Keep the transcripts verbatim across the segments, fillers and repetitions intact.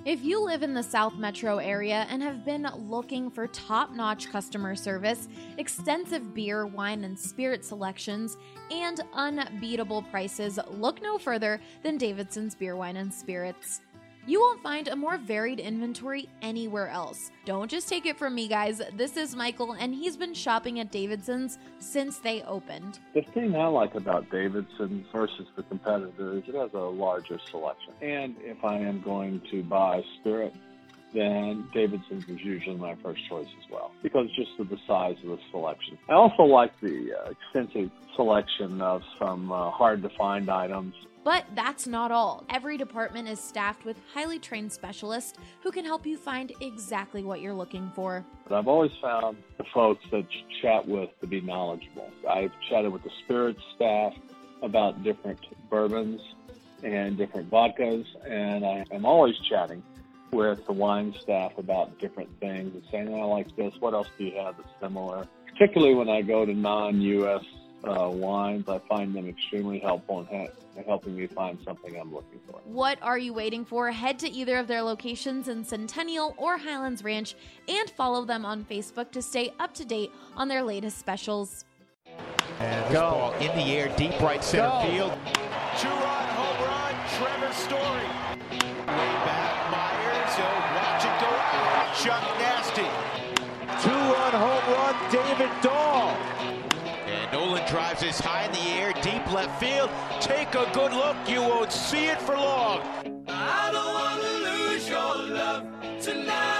If you live in the South Metro area and have been looking for top-notch customer service, extensive beer, wine, and spirit selections, and unbeatable prices, look no further than Davidson's Beer, Wine, and Spirits. You won't find a more varied inventory anywhere else. Don't just take it from me, guys. This is Michael, and he's been shopping at Davidson's since they opened. The thing I like about Davidson's versus the competitor is it has a larger selection. And if I am going to buy spirit, then Davidson's is usually my first choice as well, because just of the size of the selection. I also like the uh, extensive selection of some uh, hard-to-find items. But that's not all. Every department is staffed with highly trained specialists who can help you find exactly what you're looking for. But I've always found the folks that you chat with to be knowledgeable. I've chatted with the spirits staff about different bourbons and different vodkas, and I am always chatting with the wine staff about different things and saying, oh, I like this, what else do you have that's similar? Particularly when I go to non-U S uh, wines, I find them extremely helpful in ha- helping me find something I'm looking for. What are you waiting for? Head to either of their locations in Centennial or Highlands Ranch and follow them on Facebook to stay up to date on their latest specials. And this ball in the air, deep right center Go. field. Two-run home run, Trevor Story. Way back, Myers, oh, watch it go out. Chuck Nasty. Two-run home run, David Dahl. And Nolan drives this high in the air, deep left field. Take a good look, you won't see it for long. I don't want to lose your love tonight.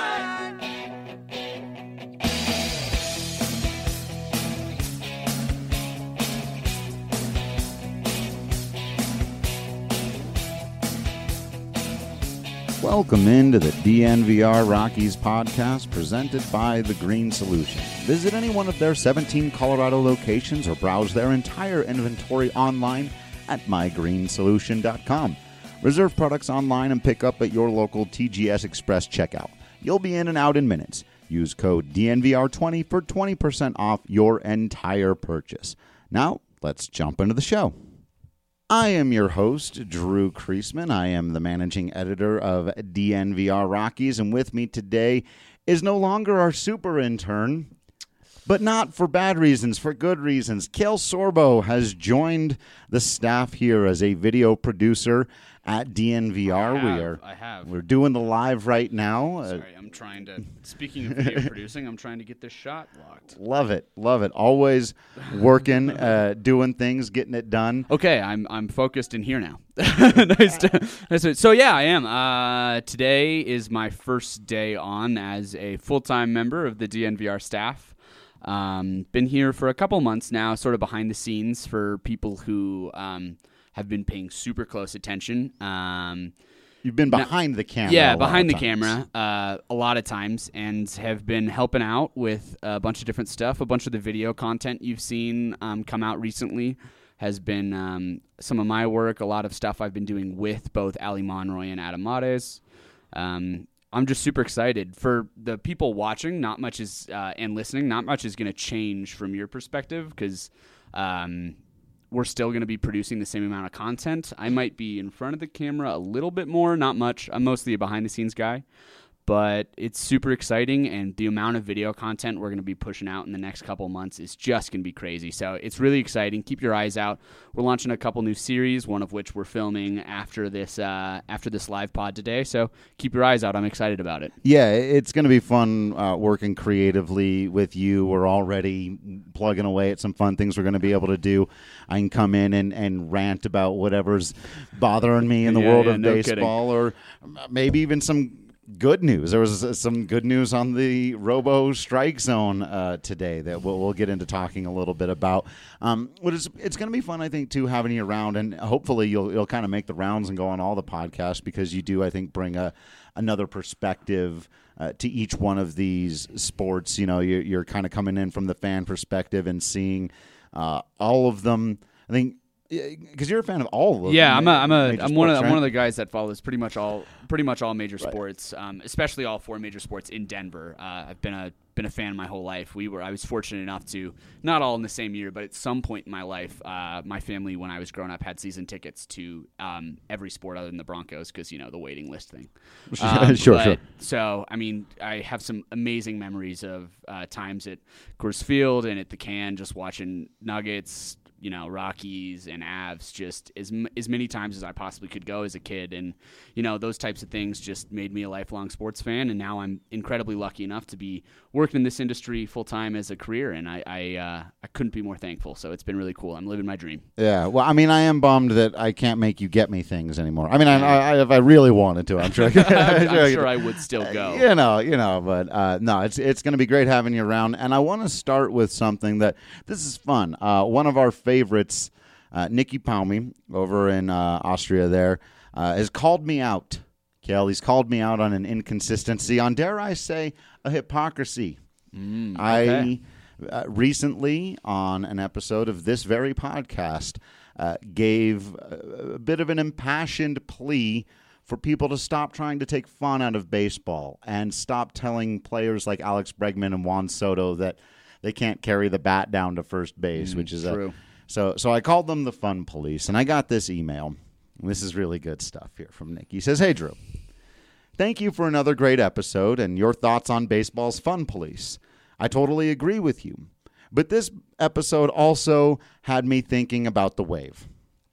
Welcome into the D N V R Rockies podcast presented by The Green Solution. Visit any one of their seventeen Colorado locations or browse their entire inventory online at my green solution dot com. Reserve products online and pick up at your local T G S Express checkout. You'll be in and out in minutes. Use code D N V R twenty for twenty percent off your entire purchase. Now, let's jump into the show. I am your host, Drew Kreisman. I am the managing editor of D N V R Rockies, and with me today is no longer our super intern, but not for bad reasons, for good reasons. Kale Sorbo has joined the staff here as a video producer at D N V R. I have, we are, I have. We're doing the live right now. Sorry, I'm trying to, speaking of video producing, I'm trying to get this shot locked. Love it, love it. Always working, uh, doing things, getting it done. Okay, I'm I'm focused in here now. nice to, nice to, so yeah, I am. Uh, today is my first day on as a full-time member of the D N V R staff. Um, been here for a couple months now, sort of behind the scenes for people who um, have been paying super close attention. Um, You've been behind now, the camera. Yeah, behind the camera uh, a lot of times, and have been helping out with a bunch of different stuff. A bunch of the video content you've seen um, come out recently has been um, some of my work, a lot of stuff I've been doing with both Ali Monroy and Adam Mares. Um, I'm just super excited. For the people watching, not much is uh, and listening, not much is going to change from your perspective, because um, we're still going to be producing the same amount of content. I might be in front of the camera a little bit more, not much. I'm mostly a behind-the-scenes guy. But it's super exciting, and the amount of video content we're going to be pushing out in the next couple months is just going to be crazy. So it's really exciting. Keep your eyes out. We're launching a couple new series, one of which we're filming after this uh, after this live pod today. So keep your eyes out. I'm excited about it. Yeah, it's going to be fun uh, working creatively with you. We're already plugging away at some fun things we're going to be able to do. I can come in and, and rant about whatever's bothering me in the yeah, world yeah, of no baseball, kidding. Or maybe even some good news. There was some good news on the Robo Strike Zone uh, today that we'll, we'll get into talking a little bit about. Um, but it's, it's going to be fun, I think, too, having you around, and hopefully you'll you'll kind of make the rounds and go on all the podcasts, because you do, I think, bring a another perspective uh, to each one of these sports. You know, you're, you're kind of coming in from the fan perspective and seeing uh, all of them. I think. Because you're a fan of all of them. Yeah, I'm a, I'm a, I'm sports, one of, right? I'm one of the guys that follows pretty much all, pretty much all major Right. sports, um, especially all four major sports in Denver. Uh, I've been a been a fan my whole life. We were I was fortunate enough to, not all in the same year, but at some point in my life, uh, my family, when I was growing up, had season tickets to um, every sport other than the Broncos because, you know, the waiting list thing. Um, sure, but, sure. So, I mean, I have some amazing memories of uh, times at Coors Field and at the Can, just watching Nuggets, you know, Rockies and Avs just as as many times as I possibly could go as a kid. And, you know, those types of things just made me a lifelong sports fan. And now I'm incredibly lucky enough to be working in this industry full time as a career. And I I, uh, I couldn't be more thankful. So it's been really cool. I'm living my dream. Yeah. Well, I mean, I am bummed that I can't make you get me things anymore. I mean, I, I, if I really wanted to, I'm sure I could. I'm, I'm sure I would still go. You know, you know, but uh, no, it's it's going to be great having you around. And I want to start with something that this is fun. Uh, one of our favorites, Uh, Nicky Palmi over in uh, Austria there uh, has called me out. Kel, he's called me out on an inconsistency, on, dare I say, a hypocrisy. Mm, okay. I uh, recently, on an episode of this very podcast, uh, gave a, a bit of an impassioned plea for people to stop trying to take fun out of baseball and stop telling players like Alex Bregman and Juan Soto that they can't carry the bat down to first base, mm, which is true. a... So so I called them the fun police, and I got this email. This is really good stuff here from Nick. He says, "Hey, Drew, thank you for another great episode and your thoughts on baseball's fun police. I totally agree with you. But this episode also had me thinking about the wave.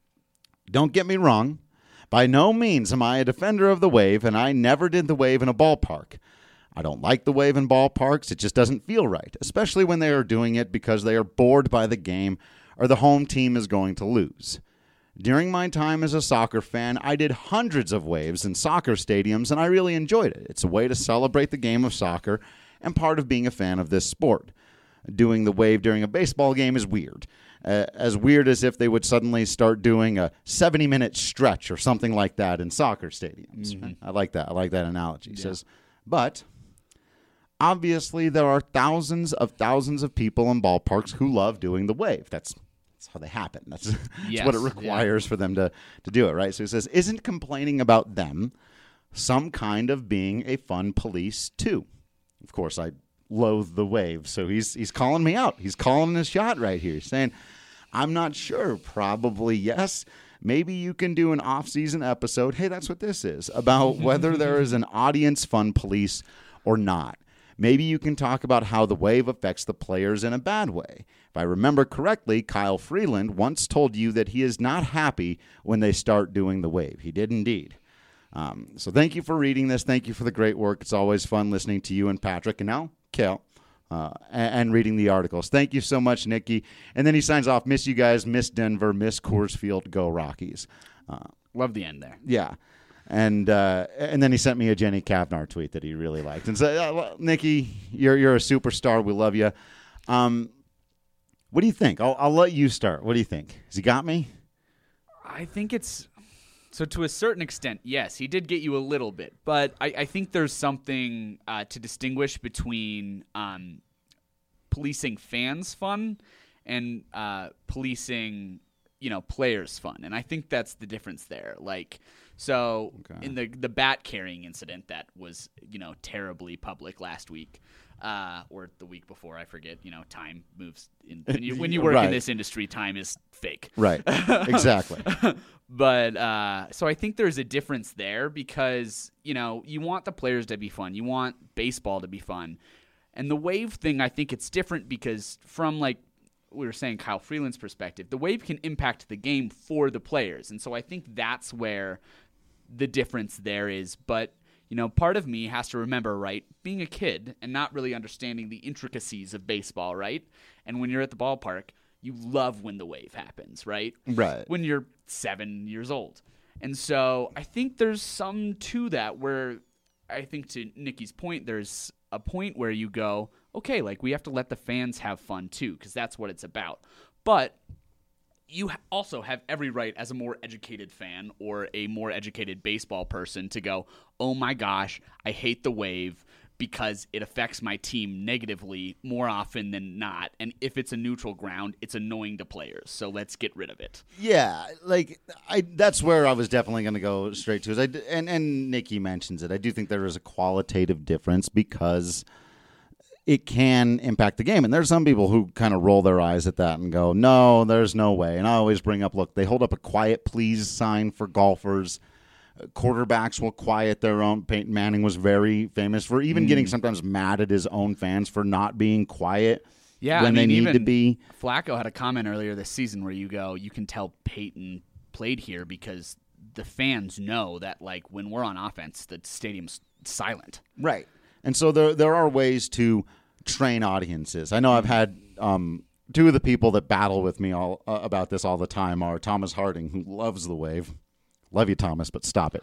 Don't get me wrong. By no means am I a defender of the wave, and I never did the wave in a ballpark. I don't like the wave in ballparks. It just doesn't feel right, especially when they are doing it because they are bored by the game or the home team is going to lose. During my time as a soccer fan, I did hundreds of waves in soccer stadiums, and I really enjoyed it. It's a way to celebrate the game of soccer and part of being a fan of this sport. Doing the wave during a baseball game is weird. Uh, as weird as if they would suddenly start doing a seventy-minute stretch or something like that in soccer stadiums. Mm-hmm. I like that. I like that analogy. He yeah. says, but obviously there are thousands of thousands of people in ballparks who love doing the wave. That's That's how they happen. That's, that's yes, what it requires yeah. for them to, to do it, right? So he says, isn't complaining about them some kind of being a fun police too? Of course, I loathe the wave, so he's he's calling me out. He's calling his shot right here. He's saying, I'm not sure. Probably yes. Maybe you can do an off-season episode. Hey, that's what this is, about whether there is an audience fun police or not. Maybe you can talk about how the wave affects the players in a bad way. If I remember correctly, Kyle Freeland once told you that he is not happy when they start doing the wave. He did indeed. Um, so thank you for reading this. Thank you for the great work. It's always fun listening to you and Patrick, and now Kel, uh, and, and reading the articles. Thank you so much, Nicky. And then he signs off, miss you guys, miss Denver, miss Coors Field, go Rockies. Uh, Love the end there. Yeah. And uh, and then he sent me a Jenny Kavnar tweet that he really liked and said, oh, well, Nicky, you're you're a superstar. We love you. Um, what do you think? I'll I'll let you start. What do you think? Has he got me? I think it's so to a certain extent, yes, he did get you a little bit, but I, I think there's something uh, to distinguish between um, policing fans' fun and uh, policing, you know, players' fun, and I think that's the difference there. Like. So okay. in the the bat carrying incident that was, you know, terribly public last week, uh, or the week before, I forget. You know, time moves. In, when you when you work right. in this industry, time is fake. Right. Exactly. But uh, so I think there's a difference there because, you know, you want the players to be fun. You want baseball to be fun, and the wave thing. I think it's different because from like. We were saying Kyle Freeland's perspective, the wave can impact the game for the players. And so I think that's where the difference there is. But, you know, part of me has to remember, right, being a kid and not really understanding the intricacies of baseball, right? And when you're at the ballpark, you love when the wave happens, right? Right. When you're seven years old. And so I think there's some to that where I think to Nicky's point, there's a point where you go, okay, like we have to let the fans have fun too, because that's what it's about. But you also have every right as a more educated fan or a more educated baseball person to go, oh my gosh, I hate the wave because it affects my team negatively more often than not. And if it's a neutral ground, it's annoying to players. So let's get rid of it. Yeah, like I that's where I was definitely going to go straight to. Is I, and, and Nicky mentions it. I do think there is a qualitative difference because it can impact the game. And there's some people who kind of roll their eyes at that and go, no, there's no way. And I always bring up, look, they hold up a quiet please sign for golfers. Quarterbacks will quiet their own. Peyton Manning was very famous for even mm. getting sometimes mad at his own fans for not being quiet yeah, when I mean, they need to be. Flacco had a comment earlier this season where you go, you can tell Peyton played here because the fans know that, like, when we're on offense, the stadium's silent. Right. And so there there are ways to train audiences. I know I've had um, two of the people that battle with me all uh, about this all the time are Thomas Harding, who loves the wave. Love you, Thomas, but stop it.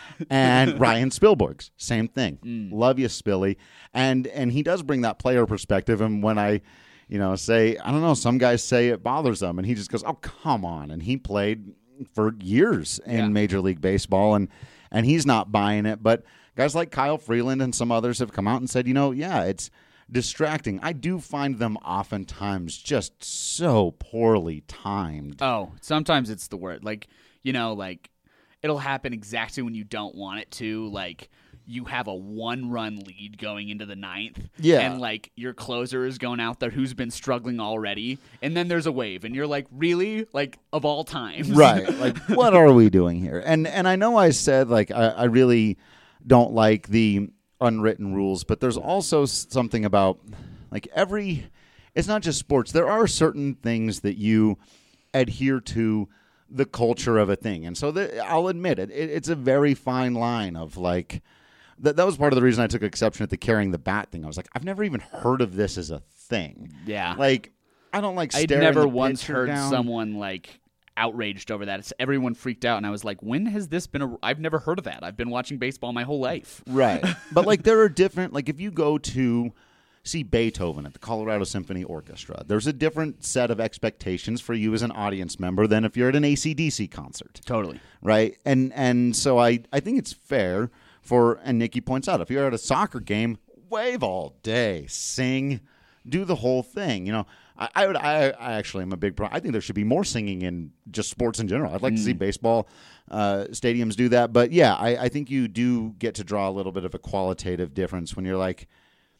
And Ryan Spielbergs, same thing. Mm. Love you, Spilly. And and he does bring that player perspective. And when I, you know, say, I don't know, some guys say it bothers them, and he just goes, oh, come on. And he played for years in yeah. Major League Baseball, and and he's not buying it. But guys like Kyle Freeland and some others have come out and said, you know, yeah, it's distracting. I do find them oftentimes just so poorly timed. Oh, sometimes it's the word. Like, you know, like, it'll happen exactly when you don't want it to. Like, you have a one-run lead going into the ninth. Yeah. And, like, your closer is going out there who's been struggling already. And then there's a wave. And you're like, really? Like, of all times? Right. Like, what are we doing here? And and I know I said, like, I, I really don't like the unwritten rules. But there's also something about, like, every – it's not just sports. There are certain things that you adhere to the culture of a thing. And so the, I'll admit it, it, it's a very fine line of like, that, that was part of the reason I took exception at the carrying the bat thing. I was like, I've never even heard of this as a thing. Yeah. Like, I don't like I'd staring never the once pitcher heard down. someone like outraged over that. It's, everyone freaked out, and I was like, when has this been a, I've never heard of that. I've been watching baseball my whole life. Right. But like, there are different, like if you go to see Beethoven at the Colorado Symphony Orchestra, there's a different set of expectations for you as an audience member than if you're at an A C D C concert. Totally. Right? And and so I, I think it's fair for, and Nikki points out, if you're at a soccer game, wave all day, sing, do the whole thing. You know, I, I would I, I actually am a big pro. I think there should be more singing in just sports in general. I'd like mm. to see baseball uh, stadiums do that. But yeah, I, I think you do get to draw a little bit of a qualitative difference when you're like,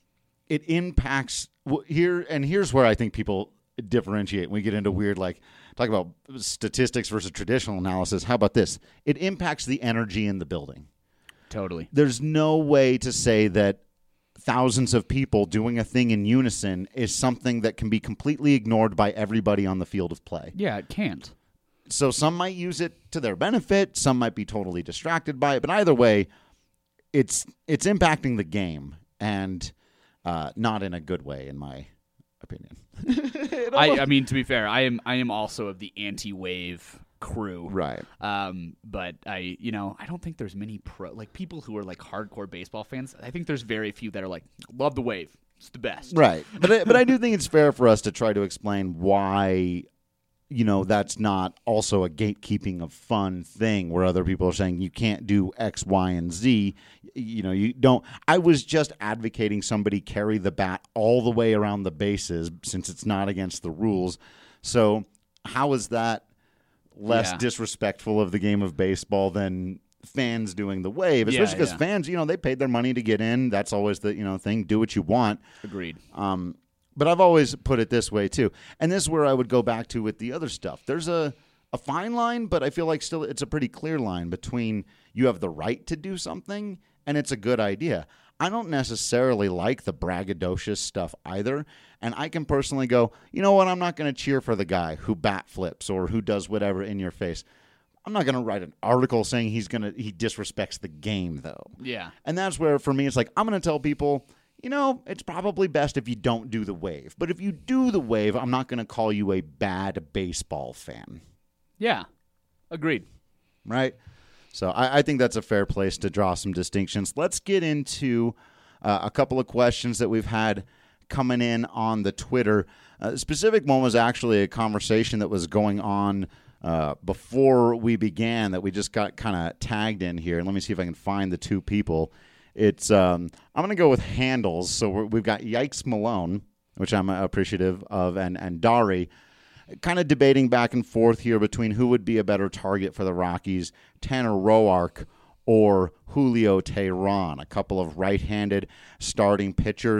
it impacts here, and here's where I think people differentiate. We get into weird, like, talk about statistics versus traditional analysis. How about this? It impacts the energy in the building. Totally. There's no way to say that thousands of people doing a thing in unison is something that can be completely ignored by everybody on the field of play. Yeah, it can't. So some might use it to their benefit. Some might be totally distracted by it. But either way, it's it's impacting the game, and Uh, not in a good way, in my opinion. I, I mean, to be fair, I am I am also of the anti-wave crew, right? Um, but I, you know, I don't think there's many pro like people who are like hardcore baseball fans. I think there's very few that are like, love the wave, it's the best, right? But I, but I do think it's fair for us to try to explain why, you know, that's not also a gatekeeping of fun thing where other people are saying you can't do X, Y, and Z. You know, you don't. I was just advocating somebody carry the bat all the way around the bases since it's not against the rules. So how is that less yeah. disrespectful of the game of baseball than fans doing the wave? Especially because yeah, yeah. fans, you know, they paid their money to get in. That's always the, you know, thing. Do what you want. Agreed. Um, But I've always put it this way, too. And this is where I would go back to with the other stuff. There's a, a fine line, but I feel like still it's a pretty clear line between you have the right to do something and it's a good idea. I don't necessarily like the braggadocious stuff either. And I can personally go, you know what, I'm not going to cheer for the guy who bat flips or who does whatever in your face. I'm not going to write an article saying he's going to he disrespects the game, though. Yeah. And that's where, for me, it's like, I'm going to tell people, you know, it's probably best if you don't do the wave. But if you do the wave, I'm not going to call you a bad baseball fan. Yeah. Agreed. Right? So I, I think that's a fair place to draw some distinctions. Let's get into uh, a couple of questions that we've had coming in on the Twitter. Uh, the specific one was actually a conversation that was going on uh, before we began that we just got kind of tagged in here. And let me see if I can find the two people. It's um, I'm going to go with handles. So we're, we've got Yikes Malone, which I'm appreciative of, and, and Dari, kind of debating back and forth here between who would be a better target for the Rockies, Tanner Roark or Julio Teheran, a couple of right-handed starting pitchers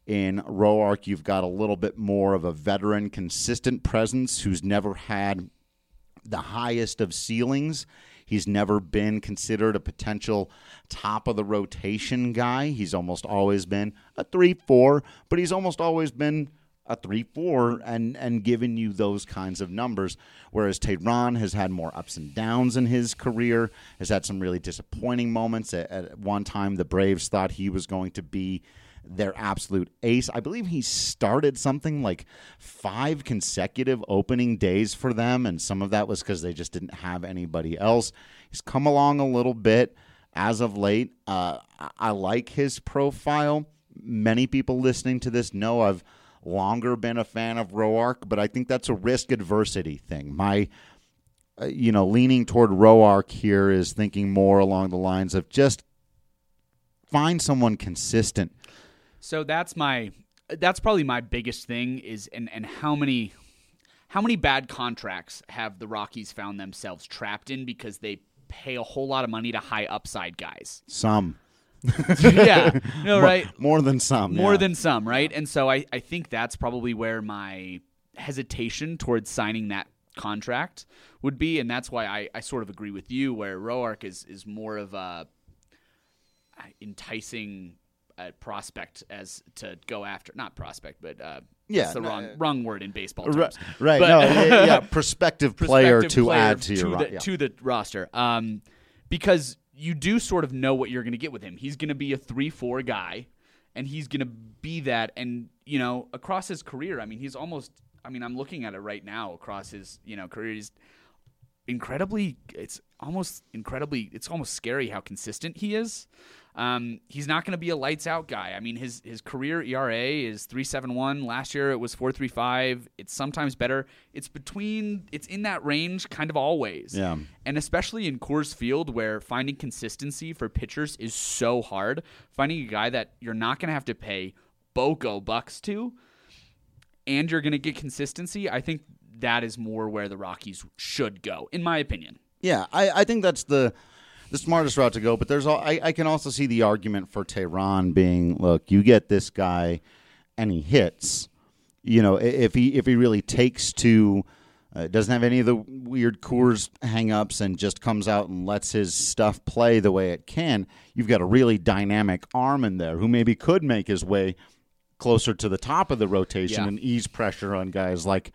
In Roark, you've got a little bit more of a veteran, consistent presence who's never had the highest of ceilings. He's never been considered a potential top-of-the-rotation guy. He's almost always been a three four, but he's almost always been a three four and, and given you those kinds of numbers, whereas Teheran has had more ups and downs in his career, has had some really disappointing moments. At, at one time, the Braves thought he was going to be their absolute ace. I believe he started something like five consecutive opening days for them, and some of that was because they just didn't have anybody else. He's come along a little bit as of late. Uh, I like his profile. Many people listening to this know I've longer been a fan of Roark, but I think that's a risk adversity thing. My, uh, you know, leaning toward Roark here is thinking more along the lines of just find someone consistent. So that's my that's probably my biggest thing is and, and how many how many bad contracts have the Rockies found themselves trapped in because they pay a whole lot of money to high upside guys. Some. yeah. No, right. More, more than some. More yeah. than some, right? And so I, I think that's probably where my hesitation towards signing that contract would be, and that's why I, I sort of agree with you where Roark is is more of a enticing uh, prospect as to go after. Not prospect, but uh, yeah, that's the no, wrong uh, wrong word in baseball terms. Right, right. But, no, yeah, yeah, prospective player prospective to player add to, to your the, yeah. to the roster. Um, because you do sort of know what you're going to get with him. He's going to be a three four guy, and he's going to be that. And, you know, across his career, I mean, he's almost – I mean, I'm looking at it right now across his, you know, career. He's incredibly – it's almost incredibly – it's almost scary how consistent he is. Um, he's not going to be a lights-out guy. I mean, his his career E R A is three point seven one. Last year it was four point three five. It's sometimes better. It's between – it's in that range kind of always. Yeah. And especially in Coors Field where finding consistency for pitchers is so hard, finding a guy that you're not going to have to pay BOGO bucks to and you're going to get consistency, I think that is more where the Rockies should go, in my opinion. Yeah, I, I think that's the – the smartest route to go, but there's all, I, I can also see the argument for Teheran being, look, you get this guy and he hits. You know, if he if he really takes to, uh, doesn't have any of the weird Coors hang-ups and just comes out and lets his stuff play the way it can, you've got a really dynamic arm in there who maybe could make his way closer to the top of the rotation yeah. and ease pressure on guys like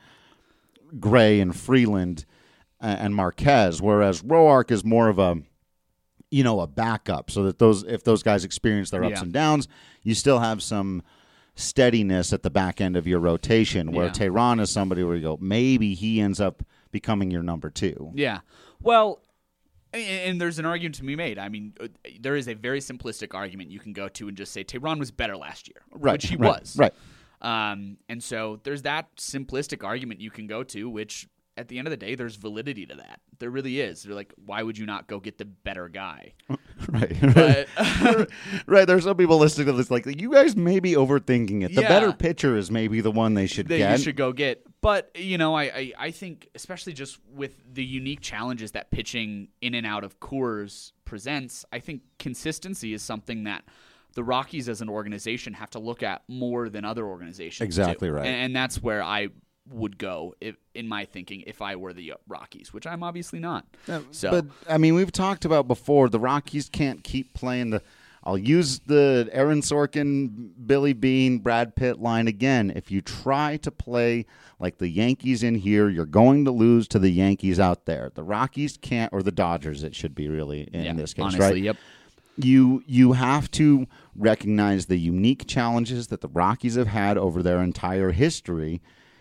Gray and Freeland and Marquez, whereas Roark is more of a you know, a backup so that those if those guys experience their ups yeah. and downs, you still have some steadiness at the back end of your rotation where yeah. Teheran is somebody where you go, maybe he ends up becoming your number two. Yeah. Well, and, and there's an argument to be made. I mean, there is a very simplistic argument you can go to and just say Teheran was better last year, right, which he right, was. Right. Um, and so there's that simplistic argument you can go to, which at the end of the day, there's validity to that. There really is. They're like, why would you not go get the better guy? Right. But, right. There's some people listening to this like, you guys may be overthinking it. The Yeah. better pitcher is maybe the one they should that get. you should go get. But, you know, I, I, I think, especially just with the unique challenges that pitching in and out of Coors presents, I think consistency is something that the Rockies as an organization have to look at more than other organizations Exactly do. right. And, and that's where I would go if, in my thinking if I were the Rockies, which I'm obviously not. So, But, I mean, we've talked about before, the Rockies can't keep playing the – I'll use the Aaron Sorkin, Billy Beane, Brad Pitt line again. If you try to play like the Yankees in here, you're going to lose to the Yankees out there. The Rockies can't – or the Dodgers, it should be really in yeah, this case, honestly, right? Yep. You you have to recognize the unique challenges that the Rockies have had over their entire history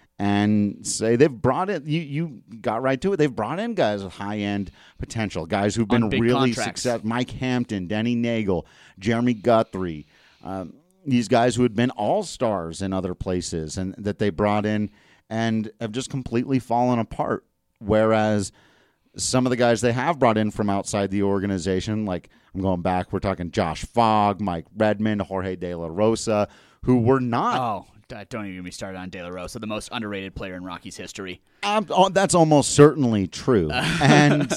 and say they've brought in, you, you got right to it, they've brought in guys with high-end potential, guys who've been really successful. Mike Hampton, Denny Nagel, Jeremy Guthrie, um, these guys who had been all-stars in other places and that they brought in and have just completely fallen apart, whereas some of the guys they have brought in from outside the organization, like I'm going back, we're talking Josh Fogg, Mike Redmond, Jorge De La Rosa, who were not Oh, Uh, don't even get me started on De La Rosa, the most underrated player in Rockies history. Um, oh, that's almost certainly true. And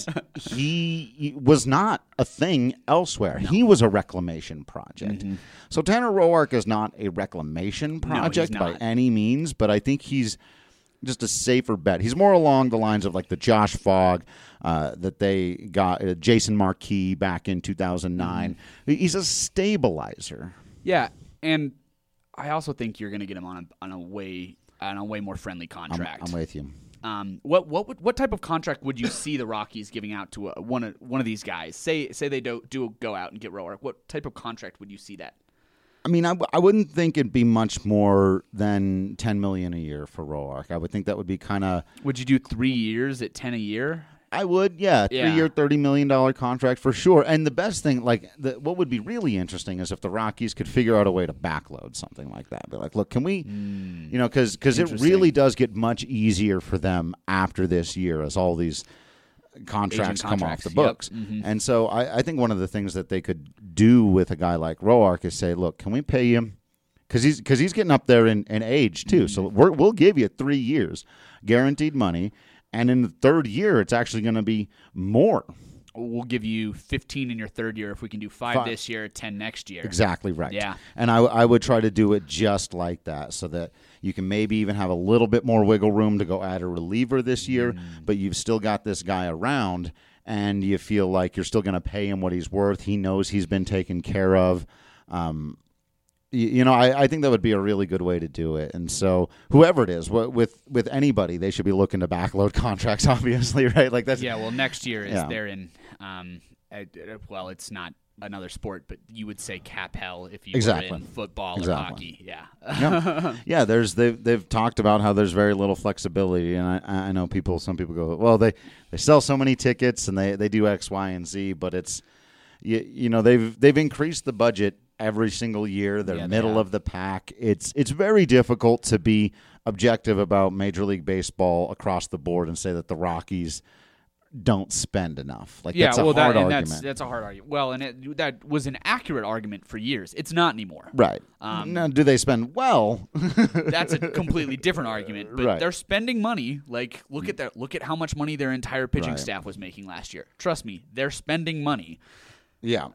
he was not a thing elsewhere. No. He was a reclamation project. Mm-hmm. So Tanner Roark is not a reclamation project no, by any means, but I think he's just a safer bet. He's more along the lines of like the Josh Fogg uh, that they got, uh, Jason Marquis back in two thousand nine. Mm-hmm. He's a stabilizer. Yeah, and I also think you're going to get him on a on a way on a way more friendly contract. I'm, I'm with you. Um, what what would, what type of contract would you see the Rockies giving out to a, one of one of these guys? Say say they do do go out and get Roark. What type of contract would you see that? I mean, I, w- I wouldn't think it'd be much more than ten million a year for Roark. I would think that would be kind of. Would you do three years at ten a year? I would, yeah, yeah. three-year, thirty million dollars contract for sure. And the best thing, like, the, what would be really interesting is if the Rockies could figure out a way to backload something like that. Be like, look, can we, mm, you know, because it really does get much easier for them after this year as all these contracts come contracts. off the books. Yep. Mm-hmm. And so I, I think one of the things that they could do with a guy like Roark is say, look, can we pay him? Because he's, cause he's getting up there in, in age, too. Mm-hmm. So we're, we'll give you three years, guaranteed money. And in the third year, it's actually going to be more. We'll give you fifteen in your third year if we can do five, five. this year, ten next year. Exactly right. Yeah. And I, I would try to do it just like that so that you can maybe even have a little bit more wiggle room to go add a reliever this year, mm. but you've still got this guy around, and you feel like you're still going to pay him what he's worth. He knows he's been taken care of. Um You know, I, I think that would be a really good way to do it. And so whoever it is, with with anybody, they should be looking to backload contracts, obviously, right? Like that's Yeah, well, next year is yeah. they're in, um, uh, well, it's not another sport, but you would say cap hell if you exactly. were in football exactly. or hockey. Yeah. yeah. yeah, there's they've, they've talked about how there's very little flexibility. And I, I know people, some people go, well, they, they sell so many tickets and they, they do X, Y, and Z, but it's, you, you know, they've they've increased the budget every single year. They're yeah, middle they of the pack. It's it's very difficult to be objective about Major League Baseball across the board and say that the Rockies don't spend enough. Like yeah, that's a well, hard that, and argument. That's, that's a hard argument. Well, and it, that was an accurate argument for years. It's not anymore. Right. Um, now, do they spend well? That's a completely different argument. But right. they're spending money. Like look at that. Look at how much money their entire pitching right. staff was making last year. Trust me, they're spending money. Yeah.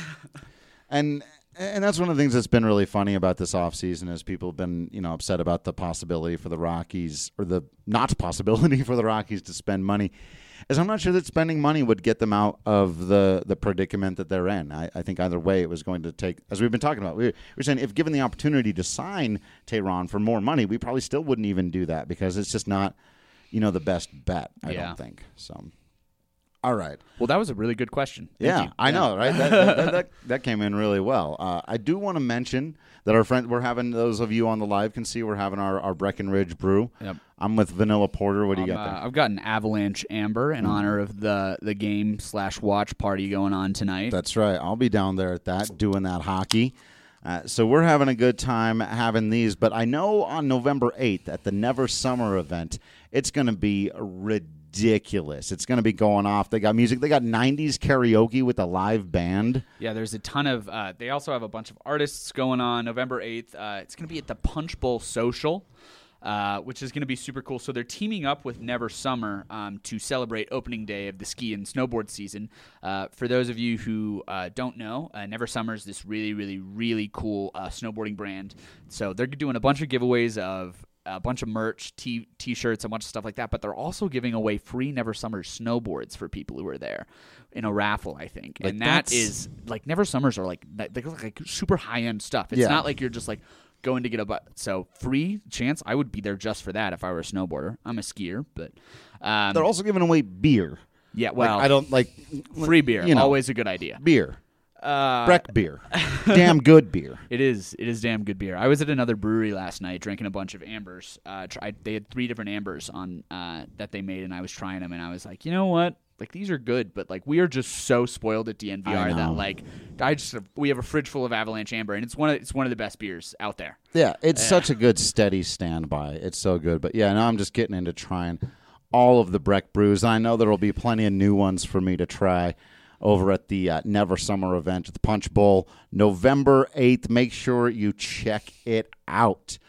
and. And that's one of the things that's been really funny about this offseason is people have been, you know, upset about the possibility for the Rockies or the not possibility for the Rockies to spend money. Is I'm not sure that spending money would get them out of the, the predicament that they're in. I, I think either way it was going to take, as we've been talking about, we were saying if given the opportunity to sign Teheran for more money, we probably still wouldn't even do that because it's just not, you know, the best bet, I yeah. don't think. So. All right. Well, that was a really good question. Thank yeah, you. I yeah. know, right? That, that, that, that, that came in really well. Uh, I do want to mention that our friend, we're having, those of you on the live can see we're having our, our Breckenridge brew. Yep. I'm with Vanilla Porter. What do you um, got there? Uh, I've got an Avalanche Amber in mm. honor of the, the game slash watch party going on tonight. That's right. I'll be down there at that, doing that hockey. Uh, so we're having a good time having these. But I know on November eighth at the Never Summer event, it's going to be ridiculous. Ridiculous. It's going to be going off. They got music. They got nineties karaoke with a live band. Yeah, there's a ton of uh, – they also have a bunch of artists going on November eighth. Uh, it's going to be at the Punch Bowl Social, uh, which is going to be super cool. So they're teaming up with Never Summer um, to celebrate opening day of the ski and snowboard season. Uh, for those of you who uh, don't know, uh, Never Summer is this really, really, really cool uh, snowboarding brand. So they're doing a bunch of giveaways of – a bunch of merch, t- t-shirts, a bunch of stuff like that, but they're also giving away free Never Summer snowboards for people who are there in a raffle, I think. Like and that is, like, Never Summers are, like, they look like super high-end stuff. It's yeah. not like you're just, like, going to get a butt. So free chance, I would be there just for that if I were a snowboarder. I'm a skier, but... Um, they're also giving away beer. Yeah, well... Like, I don't, like... Free beer, you know, always a good idea. Beer. Uh, Breck beer. Damn good beer. It is. It is damn good beer. I was at another brewery last night drinking a bunch of ambers. Uh, try, they had three different ambers on uh, that they made, and I was trying them, and I was like, you know what? Like, these are good, but, like, we are just so spoiled at D N V R that, like, I just we have a fridge full of Avalanche Amber, and it's one of it's one of the best beers out there. Yeah, it's uh, such a good steady standby. It's so good. But, yeah, now I'm just getting into trying all of the Breck brews, and I know there will be plenty of new ones for me to try over at the uh, Never Summer event at the Punch Bowl, November eighth. Make sure you check it out.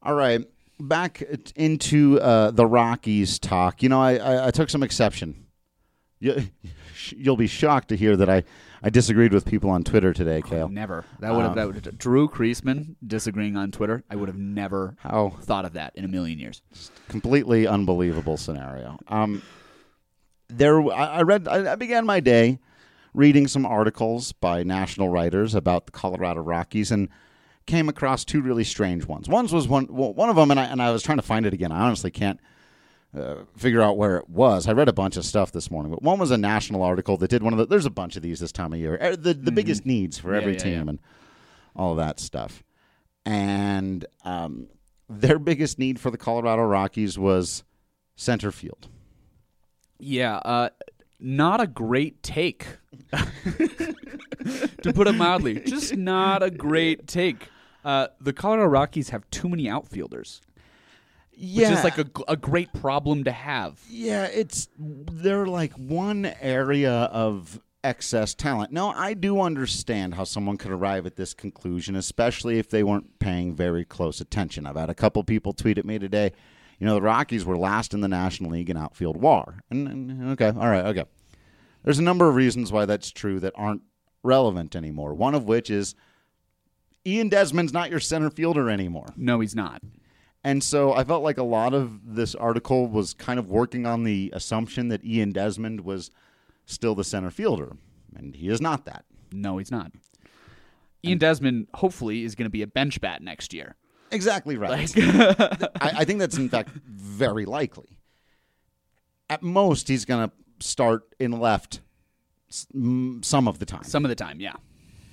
All right, back into uh, the Rockies talk. You know, I, I, I took some exception. You, you'll be shocked to hear that I, I disagreed with people on Twitter today, Kale. Never. That would have um, that would, Drew Kreisman disagreeing on Twitter. I would have never how, thought of that in a million years. Completely unbelievable scenario. Um, there, I, I read. I, I began my day reading some articles by national writers about the Colorado Rockies and came across two really strange ones. One was one. Well, one of them, and I and I was trying to find it again. I honestly can't. Uh, figure out where it was. I read a bunch of stuff this morning, but one was a national article that did one of the. There's a bunch of these this time of year. The the mm-hmm. biggest needs for yeah, every yeah, team yeah. and all of that stuff. And um, their biggest need for the Colorado Rockies was center field. Yeah, uh, not a great take, to put it mildly. Just not a great take. Uh, the Colorado Rockies have too many outfielders. Yeah. Which is like a, a great problem to have. Yeah, it's they're like one area of excess talent. Now, I do understand how someone could arrive at this conclusion, especially if they weren't paying very close attention. I've had a couple people tweet at me today, you know, the Rockies were last in the National League in outfield W A R. And, and okay, all right, okay. There's a number of reasons why that's true that aren't relevant anymore, one of which is Ian Desmond's not your center fielder anymore. No, he's not. And so I felt like a lot of this article was kind of working on the assumption that Ian Desmond was still the center fielder, and he is not that. No, he's not. Ian and Desmond, hopefully, is going to be a bench bat next year. Exactly right. Like I, I think that's, in fact, very likely. At most, he's going to start in left some of the time. Some of the time, yeah.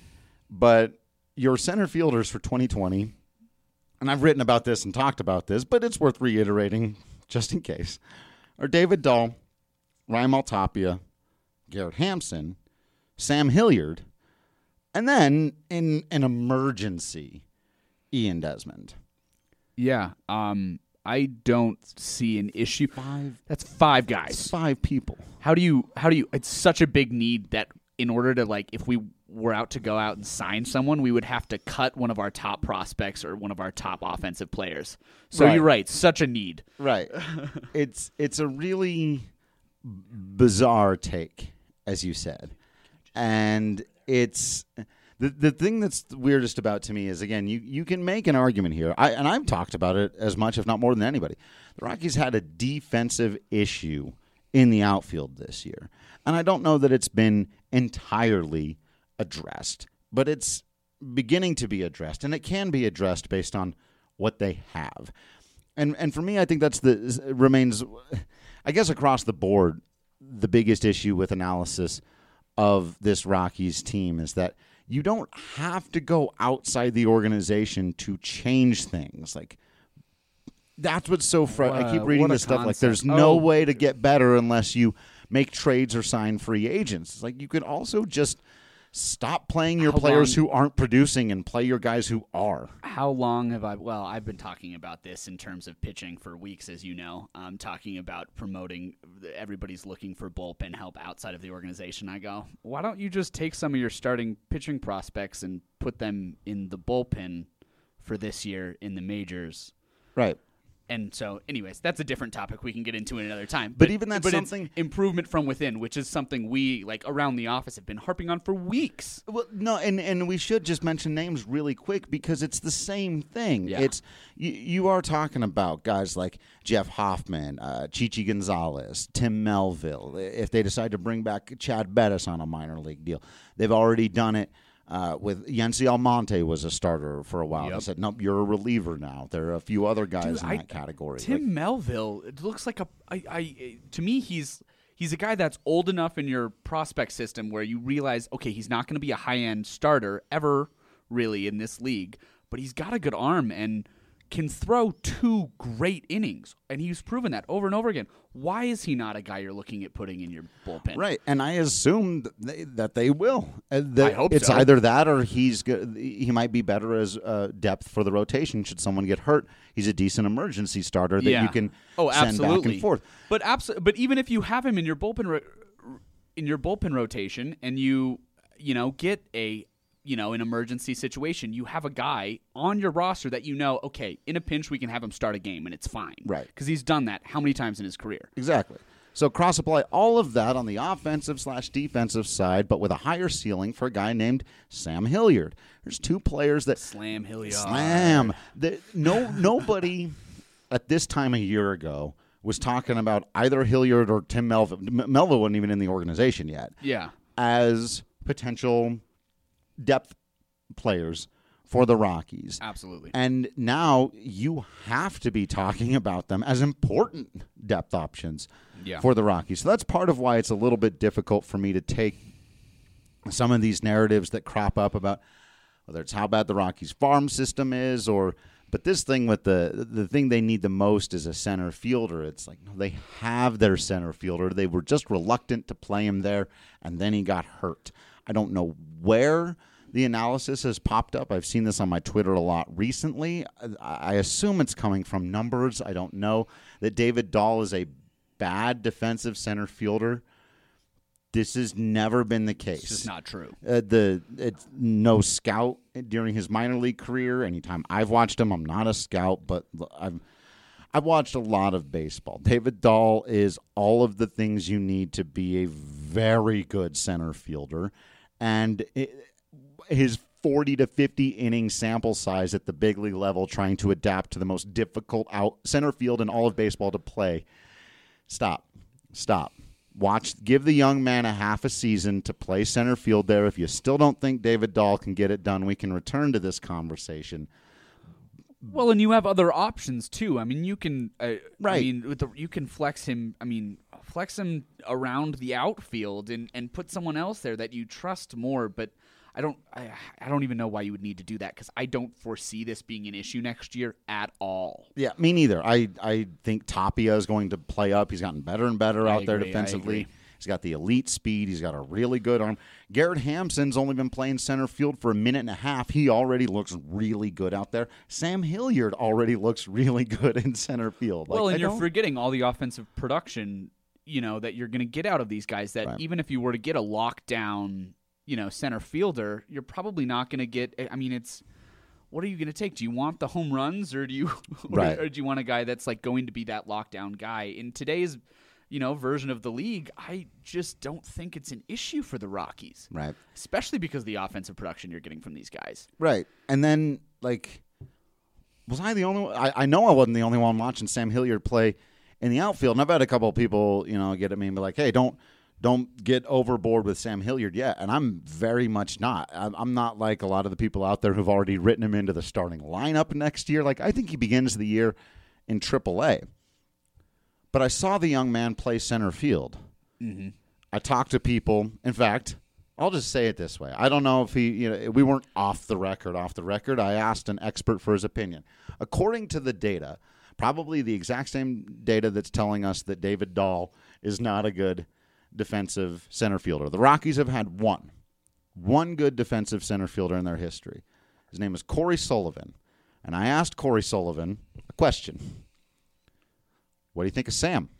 But your center fielders for twenty twenty... and I've written about this and talked about this, but it's worth reiterating just in case, are David Dahl, Raimel Tapia, Garrett Hampson, Sam Hilliard, and then in an emergency, Ian Desmond. Yeah, um, I don't see an issue. Five. That's five guys. That's five people. How do you? How do you? It's such a big need that in order to like, if we were out to go out and sign someone, we would have to cut one of our top prospects or one of our top offensive players. So right. You're right, such a need. Right. it's it's a really bizarre take, as you said. And it's the the thing that's weirdest about to me is, again, you, you can make an argument here. I and I've talked about it as much, if not more than anybody. The Rockies had a defensive issue in the outfield this year. And I don't know that it's been entirely addressed, but it's beginning to be addressed, and it can be addressed based on what they have. And and for me, I think that's the remains, I guess, across the board, the biggest issue with analysis of this Rockies team is that you don't have to go outside the organization to change things. Like, that's what's so frustrating. I keep reading this stuff like there's no oh. way to get better unless you make trades or sign free agents. It's like you could also just stop playing your How players long, who aren't producing and play your guys who are. How long have I... Well, I've been talking about this in terms of pitching for weeks, as you know. I'm talking about promoting... Everybody's looking for bullpen help outside of the organization. I go, why don't you just take some of your starting pitching prospects and put them in the bullpen for this year in the majors? Right. And so, anyways, that's a different topic we can get into another time. But, but even that's but something... It's improvement from within, which is something we, like, around the office have been harping on for weeks. Well, no, and, and we should just mention names really quick because it's the same thing. Yeah. It's you, you are talking about guys like Jeff Hoffman, uh, Chichi Gonzalez, Tim Melville. If they decide to bring back Chad Bettis on a minor league deal, they've already done it. Uh, with Yency Almonte was a starter for a while. Yep. They said, nope, you're a reliever now. There are a few other guys Dude, in I, that category. Tim like, Melville, it looks like a I, I to me he's he's a guy that's old enough in your prospect system where you realize, okay, he's not going to be a high-end starter ever really in this league, but he's got a good arm and can throw two great innings, and he's proven that over and over again. Why is he not a guy you're looking at putting in your bullpen? Right, and I assume that they, that they will. Uh, that I hope it's so. either that or he's go- he might be better as uh, depth for the rotation. Should someone get hurt, he's a decent emergency starter that yeah. you can oh, send absolutely. back and forth. But abso- but even if you have him in your bullpen ro- in your bullpen rotation, and you you know get a you know, an emergency situation, you have a guy on your roster that you know, okay, in a pinch we can have him start a game and it's fine. Right. Because he's done that how many times in his career? Exactly. So cross-apply all of that on the offensive slash defensive side, but with a higher ceiling for a guy named Sam Hilliard. There's two players that... Slam Hilliard. Slam. The, no, nobody at this time a year ago was talking about either Hilliard or Tim Melville. Melville wasn't even in the organization yet. Yeah. As potential depth players for the Rockies. Absolutely. And now you have to be talking about them as important depth options yeah. for the Rockies. So that's part of why it's a little bit difficult for me to take some of these narratives that crop up about whether it's how bad the Rockies farm system is or but this thing with the the thing they need the most is a center fielder. It's like no, they have their center fielder. They were just reluctant to play him there, and then he got hurt. I don't know where the analysis has popped up. I've seen this on my Twitter a lot recently. I assume it's coming from numbers. I don't know that David Dahl is a bad defensive center fielder. This has never been the case. It's just not true. Uh, the it's no scout during his minor league career. Anytime I've watched him, I'm not a scout, but I've I've watched a lot of baseball. David Dahl is all of the things you need to be a very good center fielder, and it, his forty to fifty inning sample size at the big league level, trying to adapt to the most difficult out center field in all of baseball to play. Stop, stop. Watch, give the young man a half a season to play center field there. If you still don't think David Dahl can get it done, we can return to this conversation. Well, and you have other options too. I mean, you can, uh, right? I mean, with the, you can flex him. I mean, flex him around the outfield and, and put someone else there that you trust more. But I don't, I, I don't even know why you would need to do that because I don't foresee this being an issue next year at all. Yeah, me neither. I, I think Tapia is going to play up. He's gotten better and better I out there agree, defensively. He's got the elite speed. He's got a really good arm. Garrett Hampson's only been playing center field for a minute and a half. He already looks really good out there. Sam Hilliard already looks really good in center field. Like, well, and I you're don't... forgetting all the offensive production, you know, that you're going to get out of these guys that right. even if you were to get a lockdown, you know, center fielder, you're probably not going to get, I mean, it's, what are you going to take? Do you want the home runs or do you, or, right. or do you want a guy that's like going to be that lockdown guy? In today's, you know, version of the league, I just don't think it's an issue for the Rockies. Right. Especially because of the offensive production you're getting from these guys. Right. And then, like, was I the only one? I, I know I wasn't the only one watching Sam Hilliard play in the outfield. And I've had a couple of people, you know, get at me and be like, hey, don't, Don't get overboard with Sam Hilliard yet, and I'm very much not. I'm not like a lot of the people out there who've already written him into the starting lineup next year. Like, I think he begins the year in triple A. But I saw the young man play center field. Mm-hmm. I talked to people. In fact, I'll just say it this way. I don't know if he, you know, we weren't off the record, off the record. I asked an expert for his opinion. According to the data, probably the exact same data that's telling us that David Dahl is not a good defensive center fielder. The Rockies have had one, one good defensive center fielder in their history. His name is Corey Sullivan. And I asked Corey Sullivan a question. What do you think of Sam?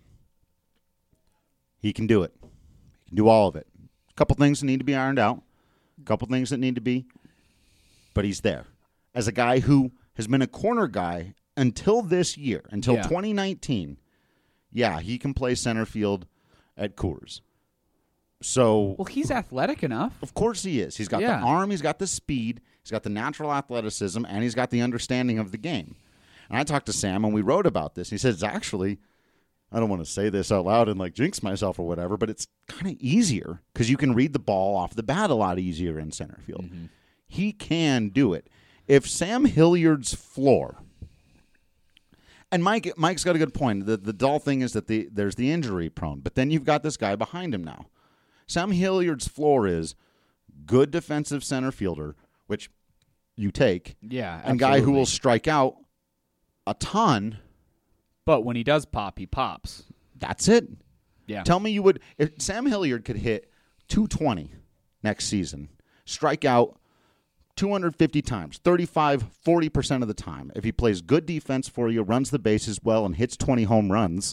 He can do it. He can do all of it. A couple things that need to be ironed out. A couple things that need to be, but he's there. As a guy who has been a corner guy until this year, until yeah. twenty nineteen, yeah, he can play center field at Coors. So, well, he's athletic enough. Of course he is. He's got yeah. the arm, he's got the speed, he's got the natural athleticism, and he's got the understanding of the game. And I talked to Sam, and we wrote about this. He said, it's actually, I don't want to say this out loud and like jinx myself or whatever, but it's kind of easier because you can read the ball off the bat a lot easier in center field. Mm-hmm. He can do it. If Sam Hilliard's floor, and Mike, Mike's got a good point. The the dull thing is that the there's the injury prone, but then you've got this guy behind him now. Sam Hilliard's floor is good defensive center fielder, which you take, yeah, and absolutely. guy who will strike out a ton. But when he does pop, he pops. That's it. Yeah. Tell me you would if Sam Hilliard could hit two twenty next season, strike out two hundred fifty times, thirty-five, forty percent of the time. If he plays good defense for you, runs the bases well, and hits twenty home runs,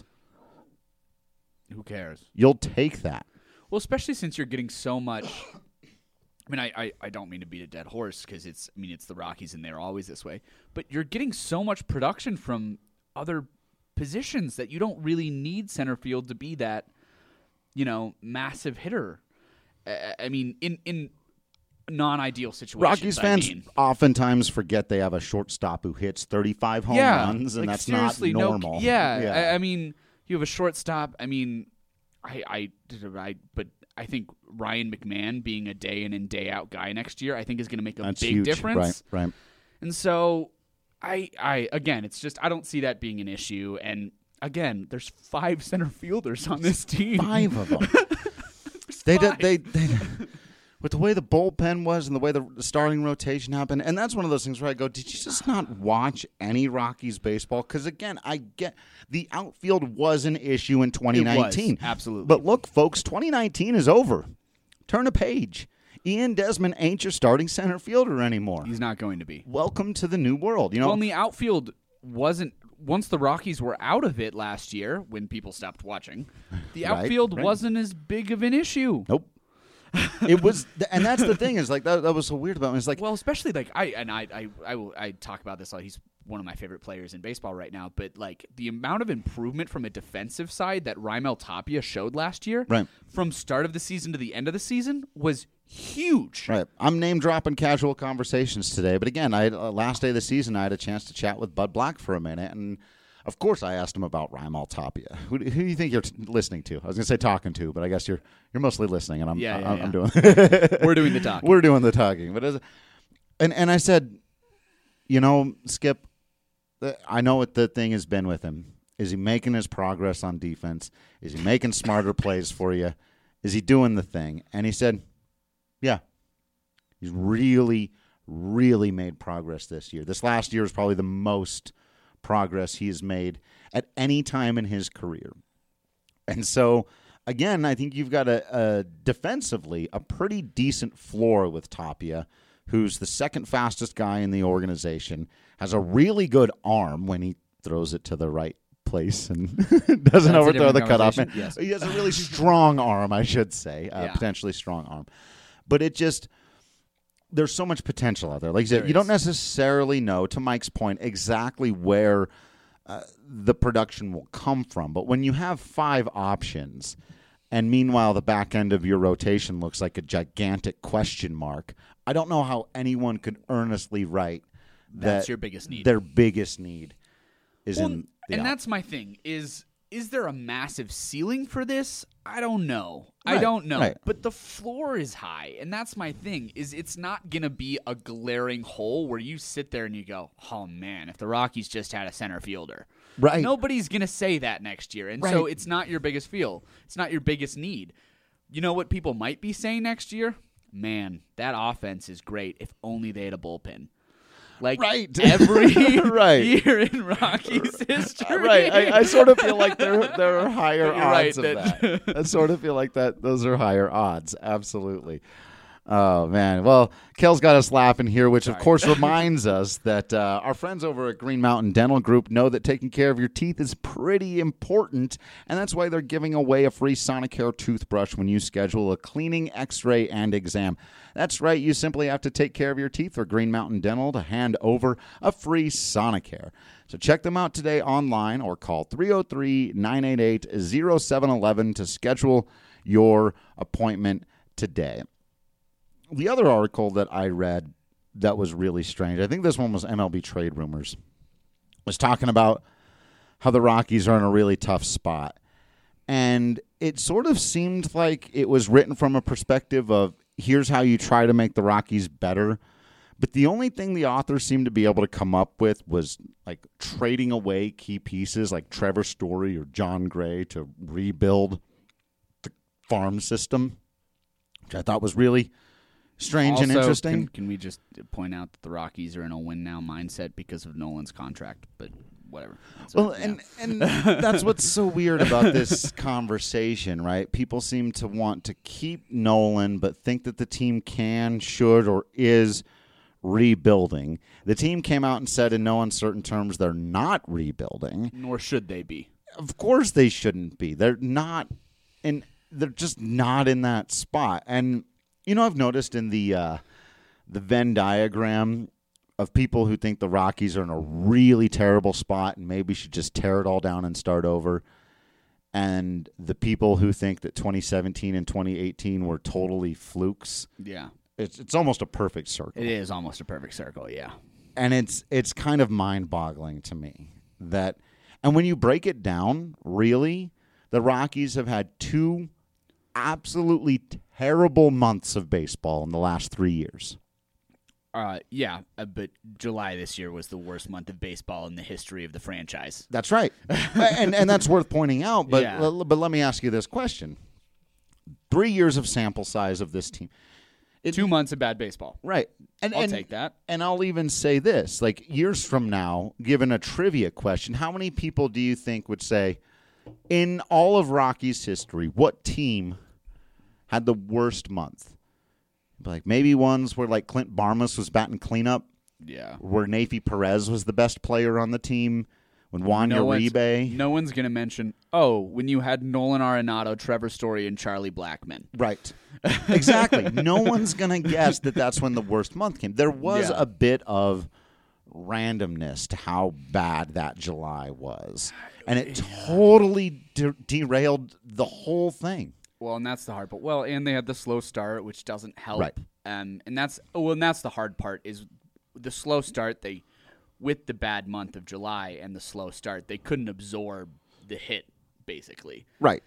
who cares? You'll take that. Well, especially since you're getting so much I mean, I, I, I don't mean to beat a dead horse because it's, I mean, it's the Rockies and they're always this way. But you're getting so much production from other positions that you don't really need center field to be that, you know, massive hitter. I, I mean, in in non-ideal situations. Rockies fans I mean. oftentimes forget they have a shortstop who hits thirty-five home yeah, runs, and like, that's not normal. No, yeah, yeah. I, I mean, you have a shortstop. I mean, I, I, I, but I think Ryan McMahon being a day in and day out guy next year, I think is going to make a that's big huge. difference. Right, right. And so, I, I again, it's just I don't see that being an issue. And again, there's five center fielders on this team. Five of them. they, did, they, they, with the way the bullpen was and the way the starting rotation happened, and that's one of those things where I go, did you just not watch any Rockies baseball? Because again, I get the outfield was an issue in twenty nineteen. It was, absolutely. But look, folks, twenty nineteen is over. Turn a page. Ian Desmond ain't your starting center fielder anymore. He's not going to be. Welcome to the new world. You know, well, and the outfield wasn't. Once the Rockies were out of it last year, when people stopped watching, the Right, outfield right. wasn't as big of an issue. Nope. It was, and that's the thing is like that. That was so weird about him. It's like, Well, especially like I and I I I, will, I talk about this. Like he's one of my favorite players in baseball right now. But like the amount of improvement from a defensive side that Raimel Tapia showed last year, Right. from start of the season to the end of the season, was huge. right. I'm name dropping casual conversations today, but again, I had, uh, last day of the season, I had a chance to chat with Bud Black for a minute, and of course, I asked him about Raimel Tapia. Who, who do you think you're t- listening to? I was going to say talking to, but I guess you're you're mostly listening, and I'm Yeah, yeah, I'm, yeah. I'm doing. We're doing the talking. We're doing the talking, but as, and and I said, you know, Skip, uh, I know what the thing has been with him. Is he making his progress on defense? Is he making smarter plays for you? Is he doing the thing? And he said, yeah, he's really, really made progress this year. This last year is probably the most progress he has made at any time in his career. And so, again, I think you've got a, a defensively a pretty decent floor with Tapia, who's the second fastest guy in the organization, has a really good arm when he throws it to the right place and doesn't That's a overthrow the different cutoff man. conversation, yes. He has a really strong arm, I should say, uh, Yeah. potentially strong arm. But it just, there's so much potential out there. Like you said, There you don't is. necessarily know, to Mike's point, exactly where uh, the production will come from. But when you have five options, and meanwhile the back end of your rotation looks like a gigantic question mark, I don't know how anyone could earnestly write That's that your biggest need. their biggest need is Well, in the and out- that's my thing is is there a massive ceiling for this? I don't know. I Right, don't know. right. But the floor is high, and that's my thing is it's not going to be a glaring hole where you sit there and you go, "Oh man, if the Rockies just had a center fielder." Right. Nobody's going to say that next year. And so Right. it's not your biggest feel. It's not your biggest need. You know what people might be saying next year? Man, that offense is great if only they had a bullpen. Like Right. every Right. year in Rockies history. Right, I, I sort of feel like there there are higher You're right, odds of that- that. I sort of feel like that those are higher odds. Absolutely. Oh man. Well, Kel's got us laughing here, which of course reminds us that uh, our friends over at Green Mountain Dental Group know that taking care of your teeth is pretty important, and that's why they're giving away a free Sonicare toothbrush when you schedule a cleaning, X-ray, and exam. That's right. You simply have to take care of your teeth for Green Mountain Dental to hand over a free Sonicare. So check them out today online or call three oh three, nine eight eight, oh seven one one to schedule your appointment today. The other article that I read that was really strange, I think this one was M L B Trade Rumors, was talking about how the Rockies are in a really tough spot. And it sort of seemed like it was written from a perspective of here's how you try to make the Rockies better. But the only thing the author seemed to be able to come up with was like trading away key pieces like Trevor Story or John Gray to rebuild the farm system, which I thought was really strange and Also, interesting. Can, can we just point out that the Rockies are in a win now mindset because of Nolan's contract? But whatever. That's Well, a- yeah. and, and that's what's so weird about this conversation, right? People seem to want to keep Nolan, but think that the team can, should, or is rebuilding. The team came out and said in no uncertain terms they're not rebuilding. nor should they be. Of course they shouldn't be. They're not, and they're just not in that spot. And You know, I've noticed in the uh, the Venn diagram of people who think the Rockies are in a really terrible spot and maybe should just tear it all down and start over, and the people who think that twenty seventeen and twenty eighteen were totally flukes. Yeah. It's it's almost a perfect circle. It is almost a perfect circle, yeah. And it's it's kind of mind-boggling to me that, and when you break it down, really, the Rockies have had two absolutely terrible months of baseball in the last three years. Uh, yeah, uh, but July this year was the worst month of baseball in the history of the franchise. That's right, and and that's worth pointing out. But Yeah. l- but let me ask you this question: three years of sample size of this team. It, Two months of bad baseball. Right. And, I'll and, take that. And I'll even say this, like years from now, given a trivia question, how many people do you think would say, in all of Rockies history, what team had the worst month? Like maybe ones where like Clint Barmas was batting cleanup, Yeah. where Neifi Perez was the best player on the team, when Juan No one's, Uribe. no one's going to mention, oh, when you had Nolan Arenado, Trevor Story, and Charlie Blackmon. Right. Exactly. No one's going to guess that that's when the worst month came. There was Yeah. a bit of randomness to how bad that July was. And it totally de- derailed the whole thing. Well, and that's the hard part. Well, and they had the slow start, which doesn't help. Right. Um, and that's oh, well, and that's the hard part is the slow start. They, with the bad month of July and the slow start, they couldn't absorb the hit. Basically, Right.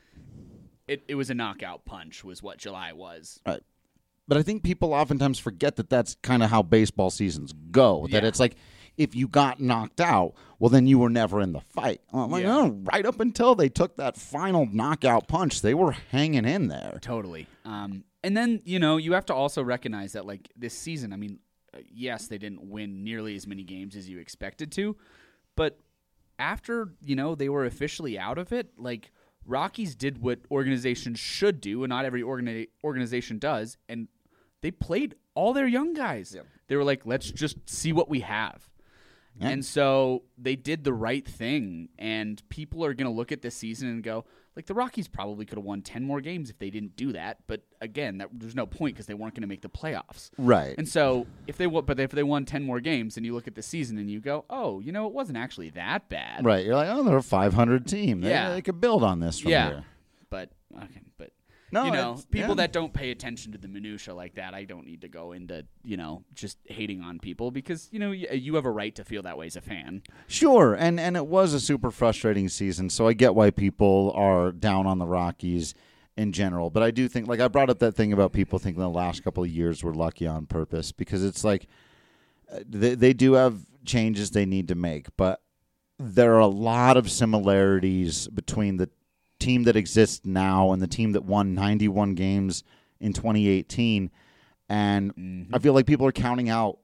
it it was a knockout punch. Was what July was. Right. But I think people oftentimes forget that that's kind of how baseball seasons go. That Yeah. it's like, if you got knocked out, well, then you were never in the fight. Well, I'm like, Yeah. no, right up until they took that final knockout punch, they were hanging in there. Totally. Um, and then, you know, you have to also recognize that, like, this season, I mean, uh, yes, they didn't win nearly as many games as you expected to, but after, you know, they were officially out of it, like, Rockies did what organizations should do, and not every organi- organization does, and they played all their young guys. Yep. They were like, let's just see what we have. Yeah. And so they did the right thing, and people are going to look at this season and go, like, the Rockies probably could have won ten more games if they didn't do that. But again, that, there's no point because they weren't going to make the playoffs. Right. And so if they wa- but if they won ten more games, and you look at the season and you go, oh, you know, it wasn't actually that bad. Right. You're like, oh, they're a five hundred team. They, Yeah. they could build on this from Yeah. here. But okay, but No, you know, it's- people yeah. that don't pay attention to the minutia like that, I don't need to go into, you know, just hating on people because, you know, you, you have a right to feel that way as a fan. Sure, and and it was a super frustrating season, so I get why people are down on the Rockies in general. But I do think, like I brought up that thing about people thinking the last couple of years were lucky on purpose, because it's like uh, they, they do have changes they need to make, but there are a lot of similarities between the team that exists now and the team that won ninety-one games in twenty eighteen. And Mm-hmm. I feel like people are counting out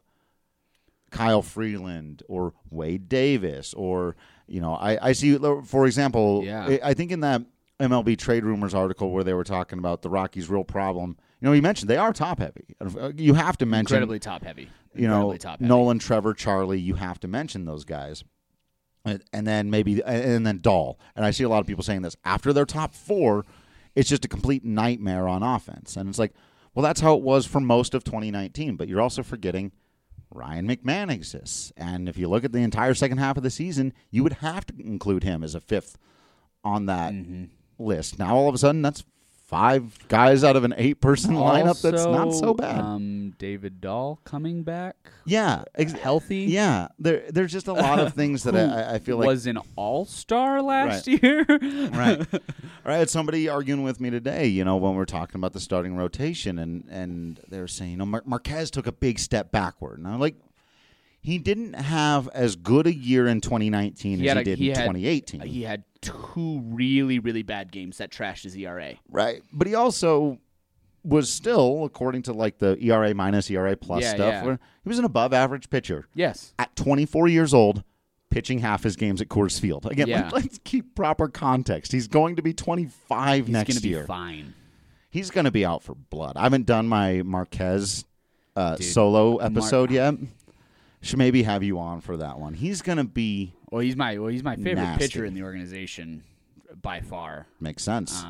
Kyle Freeland or Wade Davis, or, you know, I, I see, for example, Yeah. I I think in that M L B Trade Rumors article where they were talking about the Rockies' real problem, you know, you mentioned they are top heavy. You have to mention, Incredibly top heavy. you know, Incredibly top heavy. Nolan, Trevor, Charlie, you have to mention those guys. And, and then maybe, and then Dahl. And I see a lot of people saying this. After their top four, it's just a complete nightmare on offense. And it's like, well, that's how it was for most of twenty nineteen. But you're also forgetting Ryan McMahon exists. And if you look at the entire second half of the season, you would have to include him as a fifth on that Mm-hmm. list. Now, all of a sudden, that's five guys out of an eight-person lineup that's not so Also, bad. Um, David Dahl coming back, yeah. Ex- healthy. Yeah. There, there's just a lot of things that I, I feel like was an all-star last year. right. I had somebody arguing with me today, you know, when we were talking about the starting rotation, and, and they were saying, you know, Mar- Marquez took a big step backward. And I'm like, he didn't have as good a year in twenty nineteen He as had he a- did he in had- twenty eighteen. He had two really, really bad games that trashed his E R A. Right. But he also was still, according to like the E R A minus, E R A plus Yeah, stuff, yeah. where he was an above average pitcher. Yes. At twenty-four years old, pitching half his games at Coors Field. Again, Yeah. let, us keep proper context. He's going to be twenty-five He's next going to be year. fine. He's going to be out for blood. I haven't done my Marquez uh, Dude, solo Mar- episode yet. Should maybe have you on for that one. He's going to be Well, he's my well, he's my favorite Nasty. pitcher in the organization by far. makes sense. Um,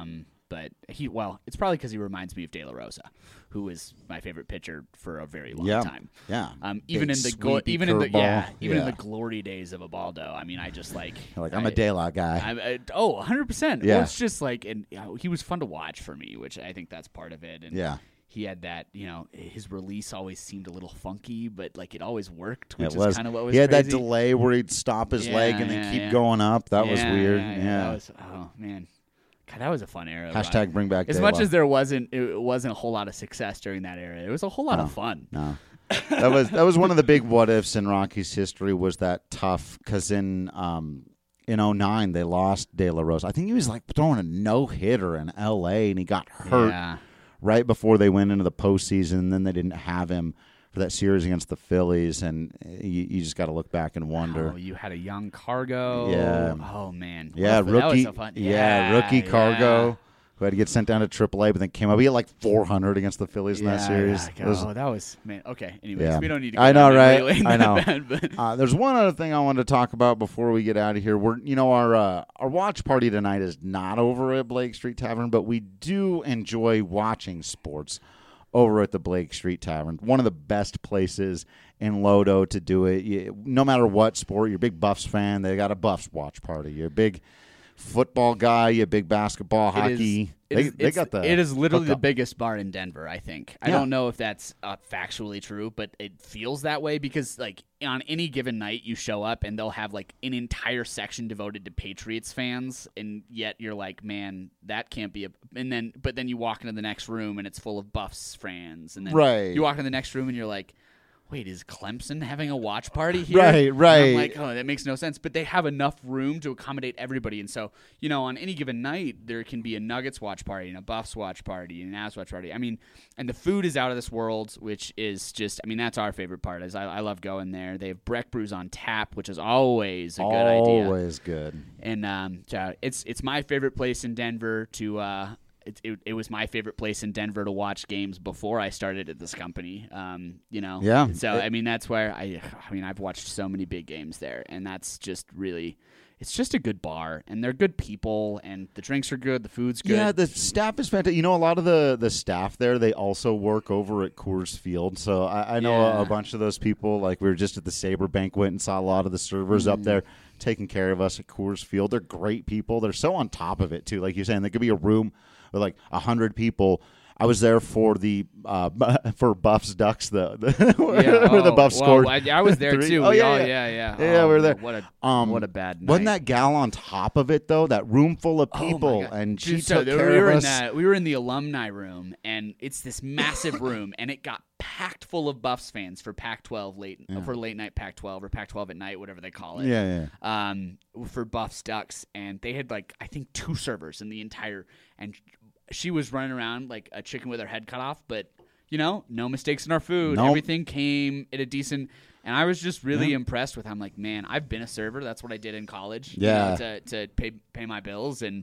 but he well, it's probably because he reminds me of De La Rosa, who was my favorite pitcher for a very long yeah. time. Yeah, um, even Big, in the go- even in the ball. yeah, even yeah. in the glory days of Ubaldo. I mean, I just like like I'm I, a De La guy. I, I, oh, one hundred percent. Yeah, well, it's just like, and you know, he was fun to watch for me, which I think that's part of it. And yeah. He had that, you know, his release always seemed a little funky, but like it always worked, which it was is kind of what was He had crazy. that delay where he'd stop his Yeah, leg and then yeah, keep yeah. going up. That yeah, was weird. Yeah. Yeah, yeah, that was, oh man, God, that was a fun era. Hashtag Ryan. bring back As De much La. as there wasn't, it wasn't a whole lot of success during that era. It was a whole lot No. of fun. No. that was that was one of the big what ifs in Rockies history. Was that tough? Because in um, in oh nine they lost De La Rosa. I think he was like throwing a no hitter in L A and he got hurt Yeah. right before they went into the postseason. And then they didn't have him for that series against the Phillies, and you, you just got to look back and wonder. Oh, you had a young Cargo. Yeah. Oh man. Yeah, That was rookie. so fun. Yeah, Yeah, rookie Cargo. yeah. Who had to get sent down to triple A, but then came up. He had like four hundred against the Phillies in that Yeah, series. yeah. It was- oh, that was man. Okay. Anyways, Yeah. we don't need to. Go I know, down right? memory lane I that know. bad, but- Uh, there's one other thing I wanted to talk about before we get out of here. We're, you know, our uh, our watch party tonight is not over at Blake Street Tavern, but we do enjoy watching sports over at the Blake Street Tavern. One of the best places in Lodo to do it. You, no matter what sport, you're a big Buffs fan, they got a Buffs watch party. You're a big football guy, you're a big basketball, It is- hockey. it they is- they it's- got the. It is literally the hookup. biggest bar in Denver. I think. I Yeah. don't know if that's uh, factually true, but it feels that way because, like, on any given night, you show up and they'll have like an entire section devoted to Patriots fans, and yet you're like, man, that can't be a. And then, but then you walk into the next room and it's full of Buffs fans, and then Right. you walk into the next room and you're like, wait, is Clemson having a watch party here? Right, And right. I'm like, oh, that makes no sense. But they have enough room to accommodate everybody. And so, you know, on any given night, there can be a Nuggets watch party and a Buffs watch party and an Avs watch party. I mean, and the food is out of this world, which is just, I mean, that's our favorite part. Is I, I love going there. They have Breck Brews on tap, which is always a good idea. Always good. And um, so it's it's my favorite place in Denver to. Uh, It, it, it was my favorite place in Denver to watch games before I started at this company. Um, you know, Yeah. So I mean, that's where I. I mean, I've watched so many big games there, and that's just really. It's just a good bar, and they're good people, and the drinks are good, the food's good. Yeah, the staff is fantastic. You know, a lot of the, the staff there, they also work over at Coors Field. So I, I know Yeah. a, a bunch of those people. Like, we were just at the Sabre banquet and saw a lot of the servers Mm. up there taking care of us at Coors Field. They're great people. They're so on top of it, too. Like you're saying, there could be a room with like one hundred people. I was there for the uh, for Buffs Ducks, the, the where, Yeah, where the oh, Buffs well, scored. I, I was there three. too. Oh, we yeah, all, yeah. yeah, yeah. Yeah, Oh, we were there. What a Um, what a bad night. Wasn't that gal on top of it though? That room full of Oh, my people, God. and she Dude, so took there- care we were of in us. that. We were in the alumni room, and it's this massive room, and it got packed full of Buffs fans for Pac twelve late Yeah. for late night Pac twelve or Pac twelve at night, whatever they call it. Yeah, yeah. Um, for Buffs Ducks, and they had like I think two servers in the entire, and she was running around like a chicken with her head cut off, but. You know, no mistakes in our food. Nope. Everything came at a decent, and I was just really Yeah. impressed with. How I'm like, man, I've been a server. That's what I did in college. Yeah. you know, to to pay pay my bills, and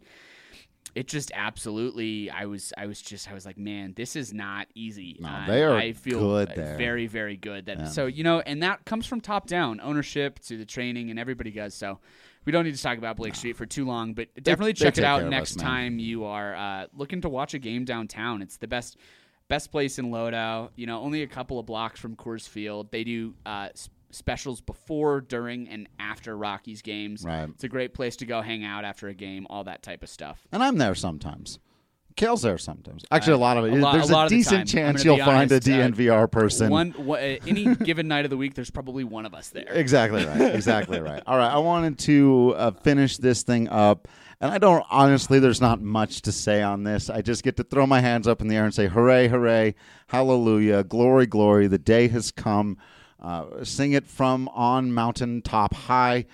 it just absolutely. I was I was just I was like, man, this is not easy. No, Uh, they are I feel good there. very very good. That Yeah. so you know, and that comes from top down ownership to the training, and everybody does so. We don't need to talk about Blake Street for too long, but definitely they check it take out care of next us, man. time you are uh, looking to watch a game downtown. It's the best best place in Lodo. You know, only a couple of blocks from Coors Field. They do uh, s- specials before, during, and after Rockies games. Right. It's a great place to go hang out after a game, all that type of stuff. And I'm there sometimes. Kale's there sometimes. Actually, Uh, a lot of it. a lot- There's a a, lot of the decent time. I'm chance gonna you'll be find honest, a uh, D N V R person. One, wh- uh, any given night of the week, there's probably one of us there. Exactly right. Exactly right. All right. I wanted to uh, finish this thing up. And I don't, honestly, there's not much to say on this. I just get to throw my hands up in the air and say, hooray, hooray, hallelujah, glory, glory. The day has come. Uh, sing it from on mountaintop high.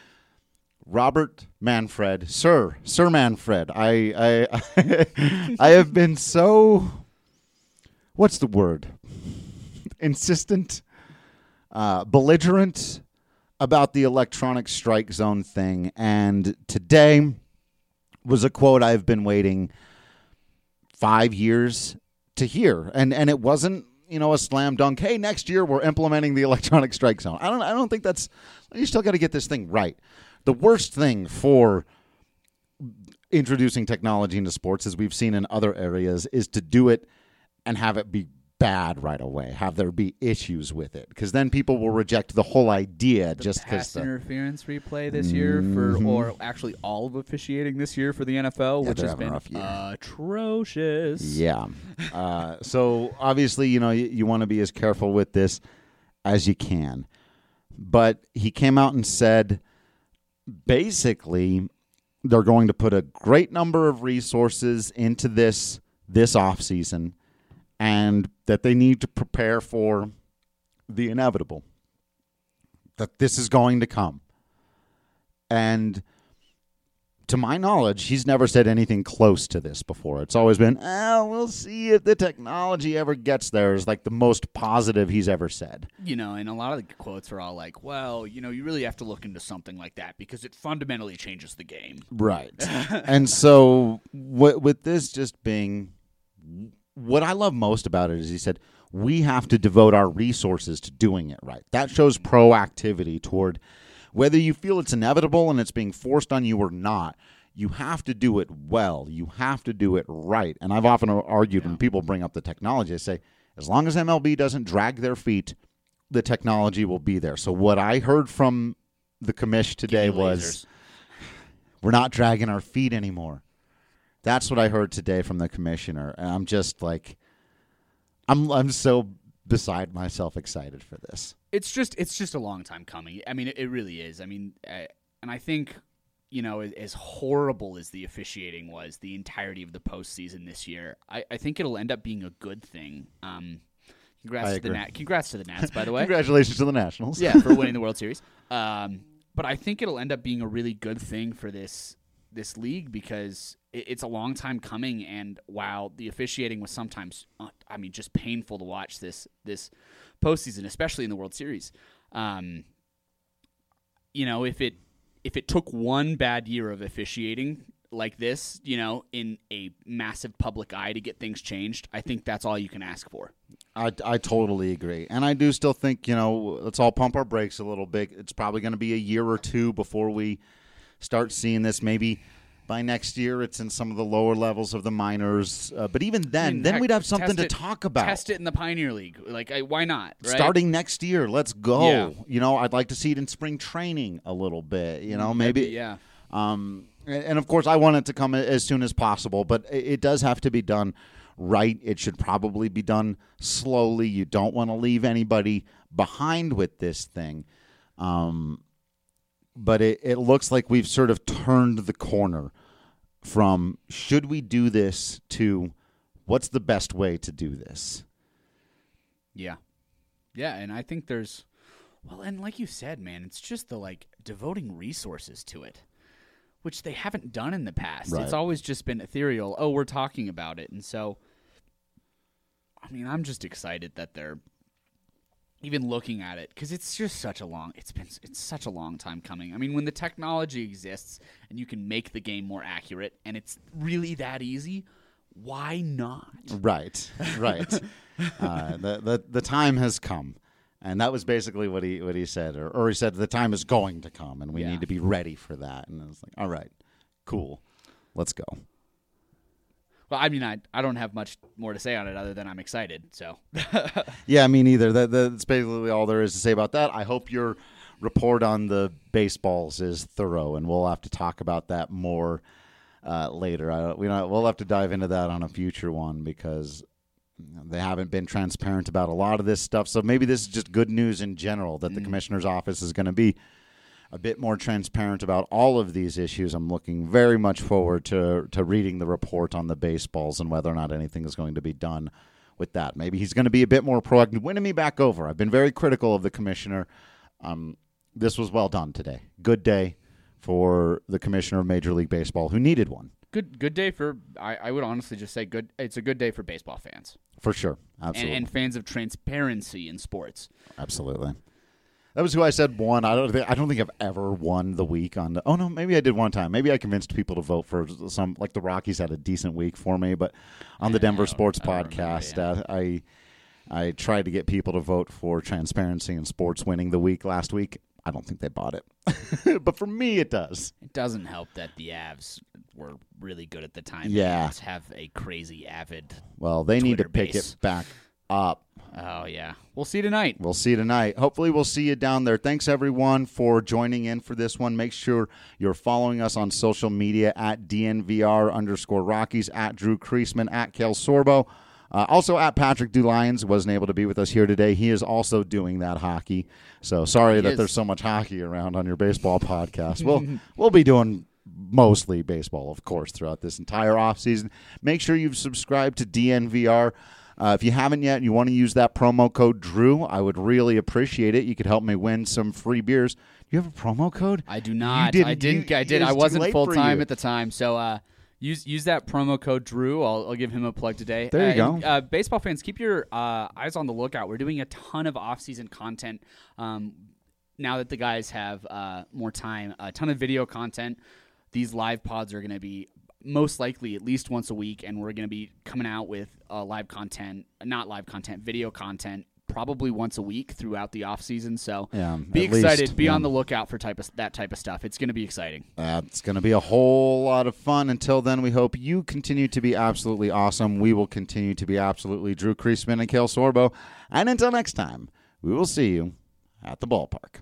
Robert Manfred, Sir, Sir Manfred. I, I, I have been so, what's the word? Insistent, uh, belligerent about the electronic strike zone thing. And today was a quote I've been waiting five years to hear. And and it wasn't, you know, a slam dunk. Hey, next year we're implementing the electronic strike zone. I don't I don't think that's, you still got to get this thing right. The worst thing for introducing technology into sports, as we've seen in other areas, is to do it and have it be bad right away, have there be issues with it, because then people will reject the whole idea the just because pass the interference replay this year for, Mhm. or actually all of officiating this year for the N F L, Yeah, which they're has having a been rough year. atrocious. Yeah. Uh, so obviously, you know, you, you want to be as careful with this as you can. But he came out and said, basically, they're going to put a great number of resources into this this offseason, and that they need to prepare for the inevitable, that this is going to come. And to my knowledge, he's never said anything close to this before. It's always been, oh, we'll see if the technology ever gets there, is like the most positive he's ever said. You know, and a lot of the quotes are all like, well, you know, you really have to look into something like that because it fundamentally changes the game. Right. And so w- with this just being, what I love most about it is he said, we have to devote our resources to doing it right. That shows proactivity toward whether you feel it's inevitable and it's being forced on you or not. You have to do it well. You have to do it right. And I've often argued when people bring up the technology, I say, as long as M L B doesn't drag their feet, the technology will be there. So what I heard from the commish today was, we're not dragging our feet anymore. That's what I heard today from the commissioner. And I'm just like, I'm I'm so beside myself excited for this. It's just it's just a long time coming. I mean, it, it really is. I mean, I, and I think, you know, as horrible as the officiating was the entirety of the postseason this year, I, I think it'll end up being a good thing. Um, congrats I to the agree. Nat, congrats to the Nats, by the way. Congratulations to the Nationals. Yeah, for winning the World Series. Um, but I think it'll end up being a really good thing for this this league because it, it's a long time coming. And while the officiating was sometimes, uh, I mean, just painful to watch this this postseason, especially in the World Series. Um, you know, if it if it took one bad year of officiating like this, you know, in a massive public eye to get things changed, I think that's all you can ask for. I, I totally agree. And I do still think, you know, let's all pump our brakes a little bit. It's probably going to be a year or two before we start seeing this. Maybe by next year it's in some of the lower levels of the minors. Uh, but even then, I mean, then heck, we'd have something to it, talk about. Test it in the Pioneer League. Like, I, why not? Right? Starting next year, let's go. Yeah. You know, I'd like to see it in spring training a little bit. You know, maybe. Maybe, yeah. Um, and, and, of course, I want it to come as soon as possible, but it, it does have to be done right. It should probably be done slowly. You don't want to leave anybody behind with this thing. Um, but it, it looks like we've sort of turned the corner from should we do this to what's the best way to do this. Yeah. Yeah, and I think there's, well, and like you said, man, it's just the, like, devoting resources to it, which they haven't done in the past. Right. It's always just been ethereal. Oh, we're talking about it. And so, I mean, I'm just excited that they're even looking at it because it's just such a long, it's been, it's such a long time coming. I mean, when the technology exists and you can make the game more accurate and it's really that easy, why not? Right, right. uh, the, the the time has come, and that was basically what he what he said, or, or he said the time is going to come, and we Yeah. need to be ready for that. And I was like, all right, cool, let's go. Well, I mean, I I don't have much more to say on it other than I'm excited. So Yeah, me neither. That, that's basically all there is to say about that. I hope your report on the baseballs is thorough, and we'll have to talk about that more uh, later. I, we don't, we'll have to dive into that on a future one because they haven't been transparent about a lot of this stuff. So maybe this is just good news in general that the commissioner's office is going to be a bit more transparent about all of these issues. I'm looking very much forward to to reading the report on the baseballs and whether or not anything is going to be done with that. Maybe he's going to be a bit more proactive, winning me back over. I've been very critical of the commissioner. Um, this was well done today. Good day for the commissioner of Major League Baseball, who needed one. good good day for, I, I would honestly just say good. It's a good day for baseball fans. For sure. And, Absolutely. and fans of transparency in sports. Absolutely. That was who I said won. I don't think I don't think I've ever won the week on the, oh no, maybe I did one time. Maybe I convinced people to vote for some, like the Rockies had a decent week for me, but on the Yeah, Denver I don't- Sports I don't remember, Podcast, yeah. uh, I I tried to get people to vote for transparency in sports winning the week last week. I don't think they bought it. But for me it does. It doesn't help that the Avs were really good at the time. Yeah. And have a crazy avid Well, they need to Twitter pick base. it back up. Oh, yeah. We'll see tonight. We'll see you tonight. Hopefully we'll see you down there. Thanks, everyone, for joining in for this one. Make sure you're following us on social media at D N V R underscore Rockies, at Drew Creasman, at Kale Sorbo. Uh, also at Patrick DeLions. Wasn't able to be with us here today. He is also doing that hockey. So sorry He that is. there's so much hockey around on your baseball podcast. We'll, we'll be doing mostly baseball, of course, throughout this entire offseason. Make sure you've subscribed to D N V R. Uh, if you haven't yet and you want to use that promo code Drew, I would really appreciate it. You could help me win some free beers. Do you have a promo code? I do not. didn't- I didn't. you- I did. it was I too wasn't late full for time you. at the time, so uh, use use that promo code Drew. I'll, I'll give him a plug today. There you uh, go. Uh, baseball fans, keep your uh, eyes on the lookout. We're doing a ton of off-season content. Um, now that the guys have uh, more time, a ton of video content. These live pods are going to be most likely at least once a week, and we're going to be coming out with uh, live content, not live content, video content, probably once a week throughout the off season. So Yeah, be at excited. least, be yeah. on the lookout for type of that type of stuff. It's going to be exciting. That's going to be a whole lot of fun. Until then, we hope you continue to be absolutely awesome. We will continue to be absolutely Drew Creasman and Kale Sorbo. And until next time, we will see you at the ballpark.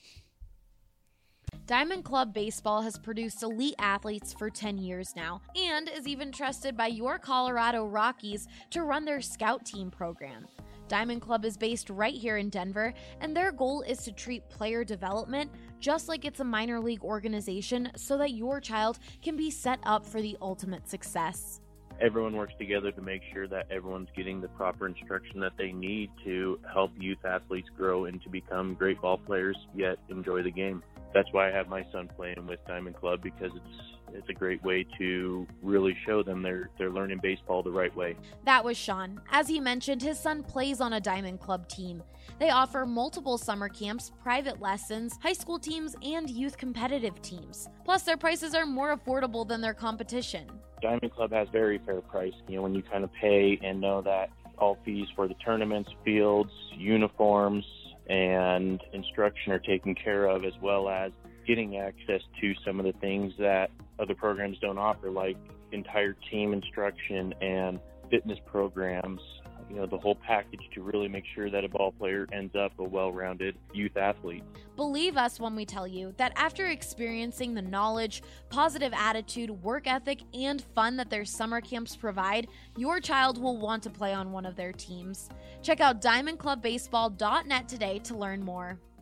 Diamond Club Baseball has produced elite athletes for ten years now and is even trusted by your Colorado Rockies to run their scout team program. Diamond Club is based right here in Denver, and their goal is to treat player development just like it's a minor league organization so that your child can be set up for the ultimate success. Everyone works together to make sure that everyone's getting the proper instruction that they need to help youth athletes grow and to become great ball players, yet enjoy the game. That's why I have my son playing with Diamond Club, because it's it's a great way to really show them they're they're learning baseball the right way. That was Sean. As he mentioned, his son plays on a Diamond Club team. They offer multiple summer camps, private lessons, high school teams, and youth competitive teams. Plus, their prices are more affordable than their competition. Diamond Club has very fair price. You know, when you kind of pay and know that all fees for the tournaments, fields, uniforms, and instruction are taken care of, as well as getting access to some of the things that other programs don't offer, like entire team instruction and fitness programs, you know, the whole package to really make sure that a ball player ends up a well-rounded youth athlete. Believe us when we tell you that after experiencing the knowledge, positive attitude, work ethic, and fun that their summer camps provide, your child will want to play on one of their teams. Check out diamond club baseball dot net today to learn more.